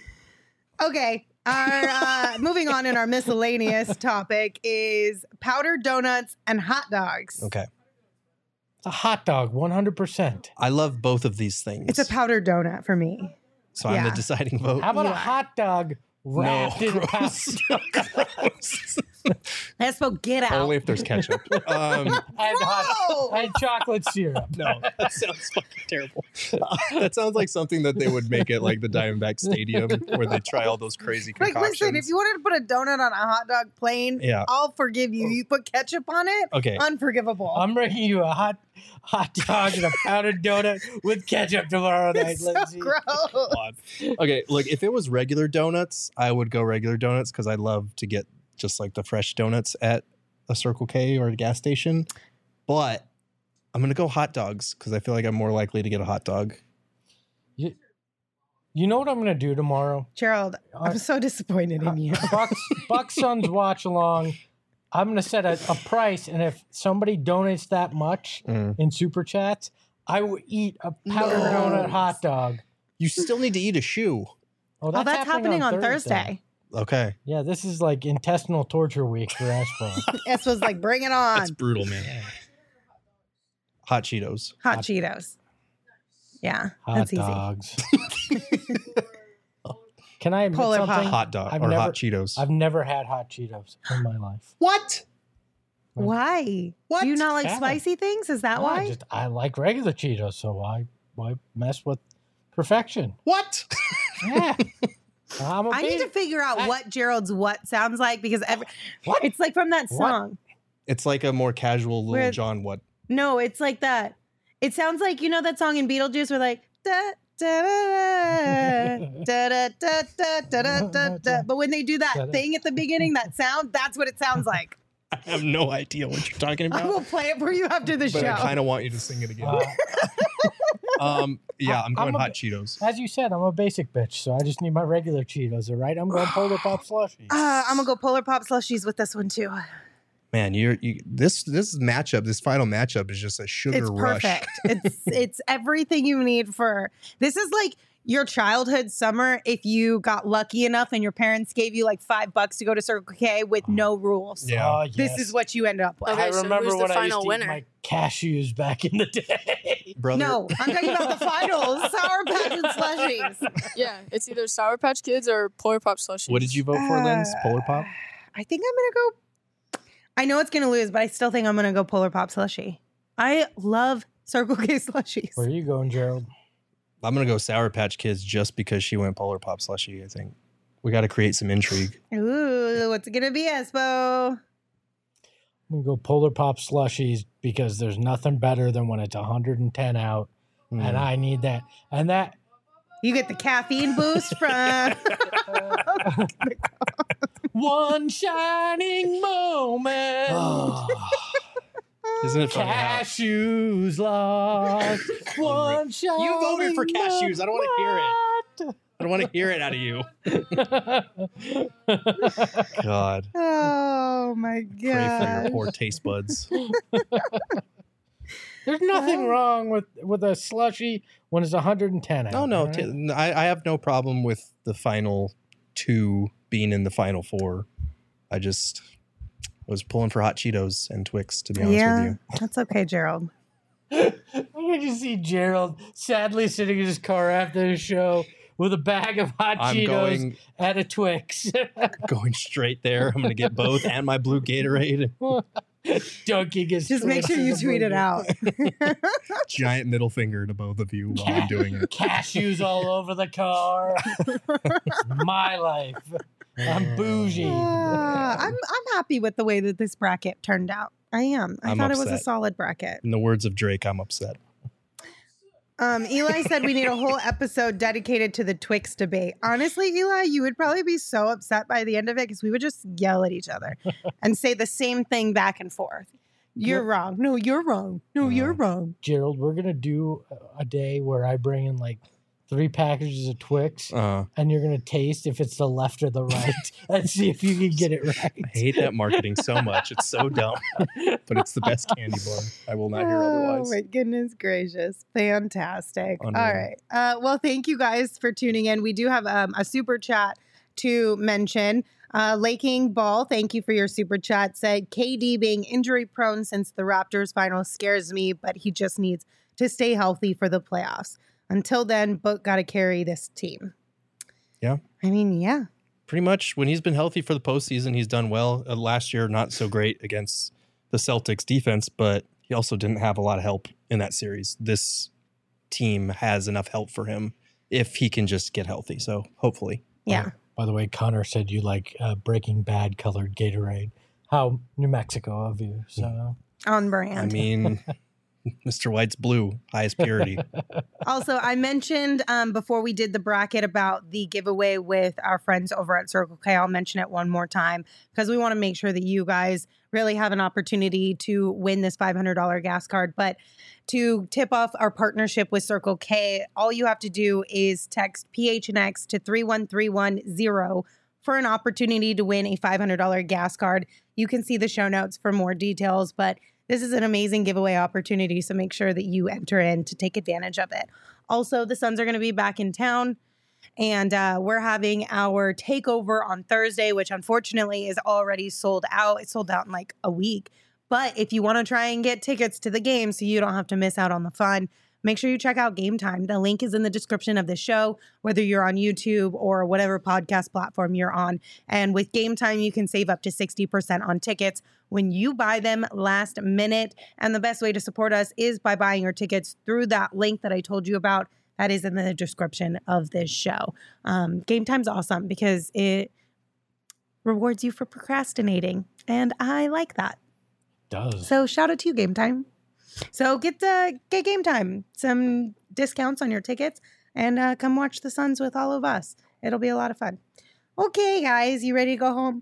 A: Okay. Our uh, moving on in our miscellaneous topic is powdered donuts and hot dogs.
C: Okay.
B: It's a hot dog, one hundred percent.
C: I love both of these things.
A: It's a powdered donut for me.
C: so I'm the
A: yeah.
C: deciding vote.
B: How about
A: Yeah.
B: a hot dog wrapped in a
C: gross.
B: powder?
C: Gross.
A: Let's go get out.
C: Only if there's ketchup. Um,
B: and, hot,
A: No!
B: and chocolate syrup.
C: no, that sounds fucking terrible. that sounds like something that they would make at like the Diamondback Stadium where they try all those crazy
A: Like,
C: concoctions.
A: listen, if you wanted to put a donut on a hot dog plain,
C: Yeah.
A: I'll forgive you. You put ketchup on it,
C: Okay.
A: unforgivable.
B: I'm bringing you a hot hot dog and a powdered donut with ketchup tomorrow night.
A: it's so
B: Lindsay.
A: gross.
C: God. Okay, look, if it was regular donuts, I would go regular donuts because I love to get just like the fresh donuts at a Circle K or a gas station. But I'm going to go hot dogs because I feel like I'm more likely to get a hot dog.
B: You, you know what I'm going to do tomorrow?
A: Gerald, I'm so disappointed in you.
B: Bucks, Bucks Suns watch along. I'm going to set a, a price, and if somebody donates that much
C: Mm.
B: in Super Chats, I will eat a powdered
A: No.
B: donut hot dog.
C: You still need to eat a shoe.
B: Oh,
A: Oh, that's happening on Thursday.
C: Okay.
B: Yeah, this is like intestinal torture week for Ashbro.
A: S was like, bring it on.
C: That's brutal, man. Hot Cheetos.
A: Hot,
B: Hot-
A: Cheetos. Yeah,
B: Hot
A: that's easy.
B: dogs. Can I admit
A: Polar Pop.
B: something?
C: Hot dog
B: I've
C: or
B: never-
C: hot Cheetos.
B: I've never had hot Cheetos in my life.
C: What?
A: Why?
C: What?
A: Do you not like
B: Yeah.
A: spicy things? Is that
B: No,
A: why?
B: I just I like regular Cheetos, so why why mess with perfection?
C: What?
B: Yeah. I'm a
A: I need
B: big-
A: to figure out
B: I-
A: what Gerald's what sounds like because every,
B: What?
A: it's like from that
B: What?
A: song.
C: It's like a more casual Lil
A: Where-
C: Jon what?
A: No, it's like that. It sounds like you know that song in Beetlejuice where like da da da da da da da da da da da. But when they do that thing at the beginning, that sound, that's what it sounds like.
C: I have no idea what you're talking
A: I
C: about.
A: will play it for you after the
C: But
A: show.
C: I kind of want you to sing it again.
B: Uh,
C: um, yeah, I'm going
B: I'm a
C: hot
B: bit-
C: Cheetos.
B: as you said, I'm a basic bitch, so I just need my regular Cheetos, all right? I'm going Polar Pop slushies.
A: Uh, I'm gonna go Polar Pop slushies with this one too.
C: Man, you're you, this this matchup, this final matchup is just a sugar
A: It's
C: rush.
A: perfect. It's it's everything you need for. This is like your childhood summer if you got lucky enough and your parents gave you like five bucks to go to Circle K with no rules.
C: Yeah.
B: Oh,
A: This
B: yes.
A: is what you end up with.
F: Okay,
B: I
F: so
B: remember
F: who's the
B: when I used
F: final
B: to
F: winner?
B: eat my cashews back in the day.
C: Brother,
A: No, I'm talking about the finals. Sour Patch and slushies.
F: Yeah, it's either Sour Patch Kids or Polar Pop slushies.
C: what did you vote for, Linz? Polar Pop?
A: I think I'm gonna go. I know it's gonna lose, but I still think I'm gonna go Polar Pop slushie. I love Circle K slushies.
B: Where are you going, Gerald?
C: I'm going to go Sour Patch Kids just because she went Polar Pop slushy, I think. We got to create some intrigue.
A: Ooh, what's it gonna be, Espo?
B: I'm going to go Polar Pop slushies because there's nothing better than when it's one hundred ten out,
C: Hmm.
B: and I need that. And that,
A: You get the caffeine boost from.
B: one shining moment.
C: Isn't it funny how
B: Cashews lost. One shining
C: You voted for cashews. I don't want to hear it.
B: moment.
C: I don't want to hear it out of you. God.
A: Oh my
C: Pray for your
A: god!
C: poor taste buds.
B: There's nothing wrong with, with a slushy when it's one hundred ten out.
C: No, no.
B: all right?
C: T- I, I have no problem with the final two being in the final four. I just was pulling for hot Cheetos and Twix, to be honest with
A: Yeah,
C: you.
A: that's okay, Gerald.
B: I can just see Gerald sadly sitting in his car after the show with a bag of hot
C: I'm
B: Cheetos
C: going
B: and a Twix.
C: going straight there. I'm going to get both and my blue Gatorade.
B: Dunking his
A: Just make
B: Twix
A: sure
B: in
A: you
B: the
A: tweet it
B: burger.
A: out.
C: Giant middle finger to both of you while I'm doing it.
B: Cashews all over the car. My life. I'm bougie.
A: Uh, I'm I'm happy with the way that this bracket turned out. I am. I
C: I'm
A: thought it was a
C: upset.
A: solid bracket.
C: In the words of Drake, I'm upset.
A: Um, Eli said we need a whole episode dedicated to the Twix debate. Honestly, Eli, you would probably be so upset by the end of it because we would just yell at each other and say the same thing back and forth. You're
B: Yep.
A: wrong. No, you're wrong. No, you're wrong.
B: Gerald, we're going to do a day where I bring in like three packages of Twix
C: Uh,
B: and you're going to taste if it's the left or the right and see if you can get it right.
C: I hate that marketing so much. It's so dumb, but it's the best candy bar. I will not hear
A: Oh
C: otherwise.
A: my goodness gracious. Fantastic.
C: Unreal.
A: All right. Uh, well, thank you guys for tuning in. We do have um, a super chat to mention. Uh, Laking Ball, thank you for your super chat. Said K D being injury prone since the Raptors final scares me, but he just needs to stay healthy for the playoffs. Until then, Book got to carry this team.
C: Yeah.
A: I mean, yeah.
C: Pretty much when he's been healthy for the postseason, he's done well. Uh, last year, not so great against the Celtics defense, but he also didn't have a lot of help in that series. This team has enough help for him if he can just get healthy. So hopefully.
A: Yeah.
B: By the way, Connor said you like uh, Breaking Bad colored Gatorade. How New Mexico of you. So
A: On brand.
C: I mean, Mister White's blue, highest purity.
A: Also, I mentioned um, before we did the bracket about the giveaway with our friends over at Circle K. I'll mention it one more time because we want to make sure that you guys really have an opportunity to win this five hundred dollars gas card. But to tip off our partnership with Circle K, all you have to do is text P H N X to three one three one zero for an opportunity to win a five hundred dollars gas card. You can see the show notes for more details, but this is an amazing giveaway opportunity, so make sure that you enter in to take advantage of it. Also, the Suns are going to be back in town, and uh, we're having our takeover on Thursday, which unfortunately is already sold out. It's sold out in like a week. But if you want to try and get tickets to the game so you don't have to miss out on the fun, make sure you check out Game Time. The link is in the description of the show, whether you're on YouTube or whatever podcast platform you're on. And with Game Time, you can save up to sixty percent on tickets when you buy them last minute. And the best way to support us is by buying your tickets through that link that I told you about. That is in the description of this show. Um, Game Time's awesome because it rewards you for procrastinating. And I like that.
B: Does.
A: So shout out to you, Game Time. So get the get Game Time, some discounts on your tickets, and uh, come watch the Suns with all of us. It'll be a lot of fun. Okay, guys, you ready to go home?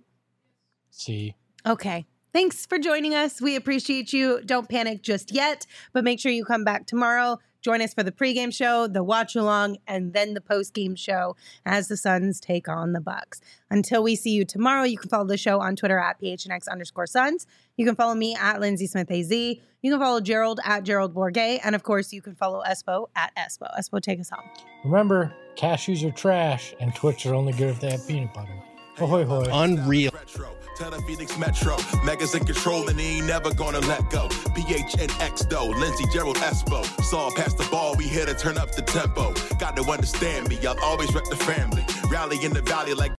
B: See.
A: Okay. Thanks for joining us. We appreciate you. Don't panic just yet, but make sure you come back tomorrow. Join us for the pregame show, the watch along, and then the postgame show as the Suns take on the Bucks. Until we see you tomorrow, you can follow the show on Twitter at P H N X underscore Suns. You can follow me at Lindsay Smith A Z. You can follow Gerald at Gerald Bourget. And of course, you can follow Espo at Espo. Espo, take us home.
B: Remember, cashews are trash and Twix are only good if they have peanut butter. Ahoy, hoy.
C: Unreal.
G: Tell the Phoenix Metro, Megas in control and he ain't never gonna let go. P H N X though, Lindsey, Gerald, Espo. Saw pass the ball, we here to turn up the tempo. Got to understand me, I'll always rep the family. Rally in the valley like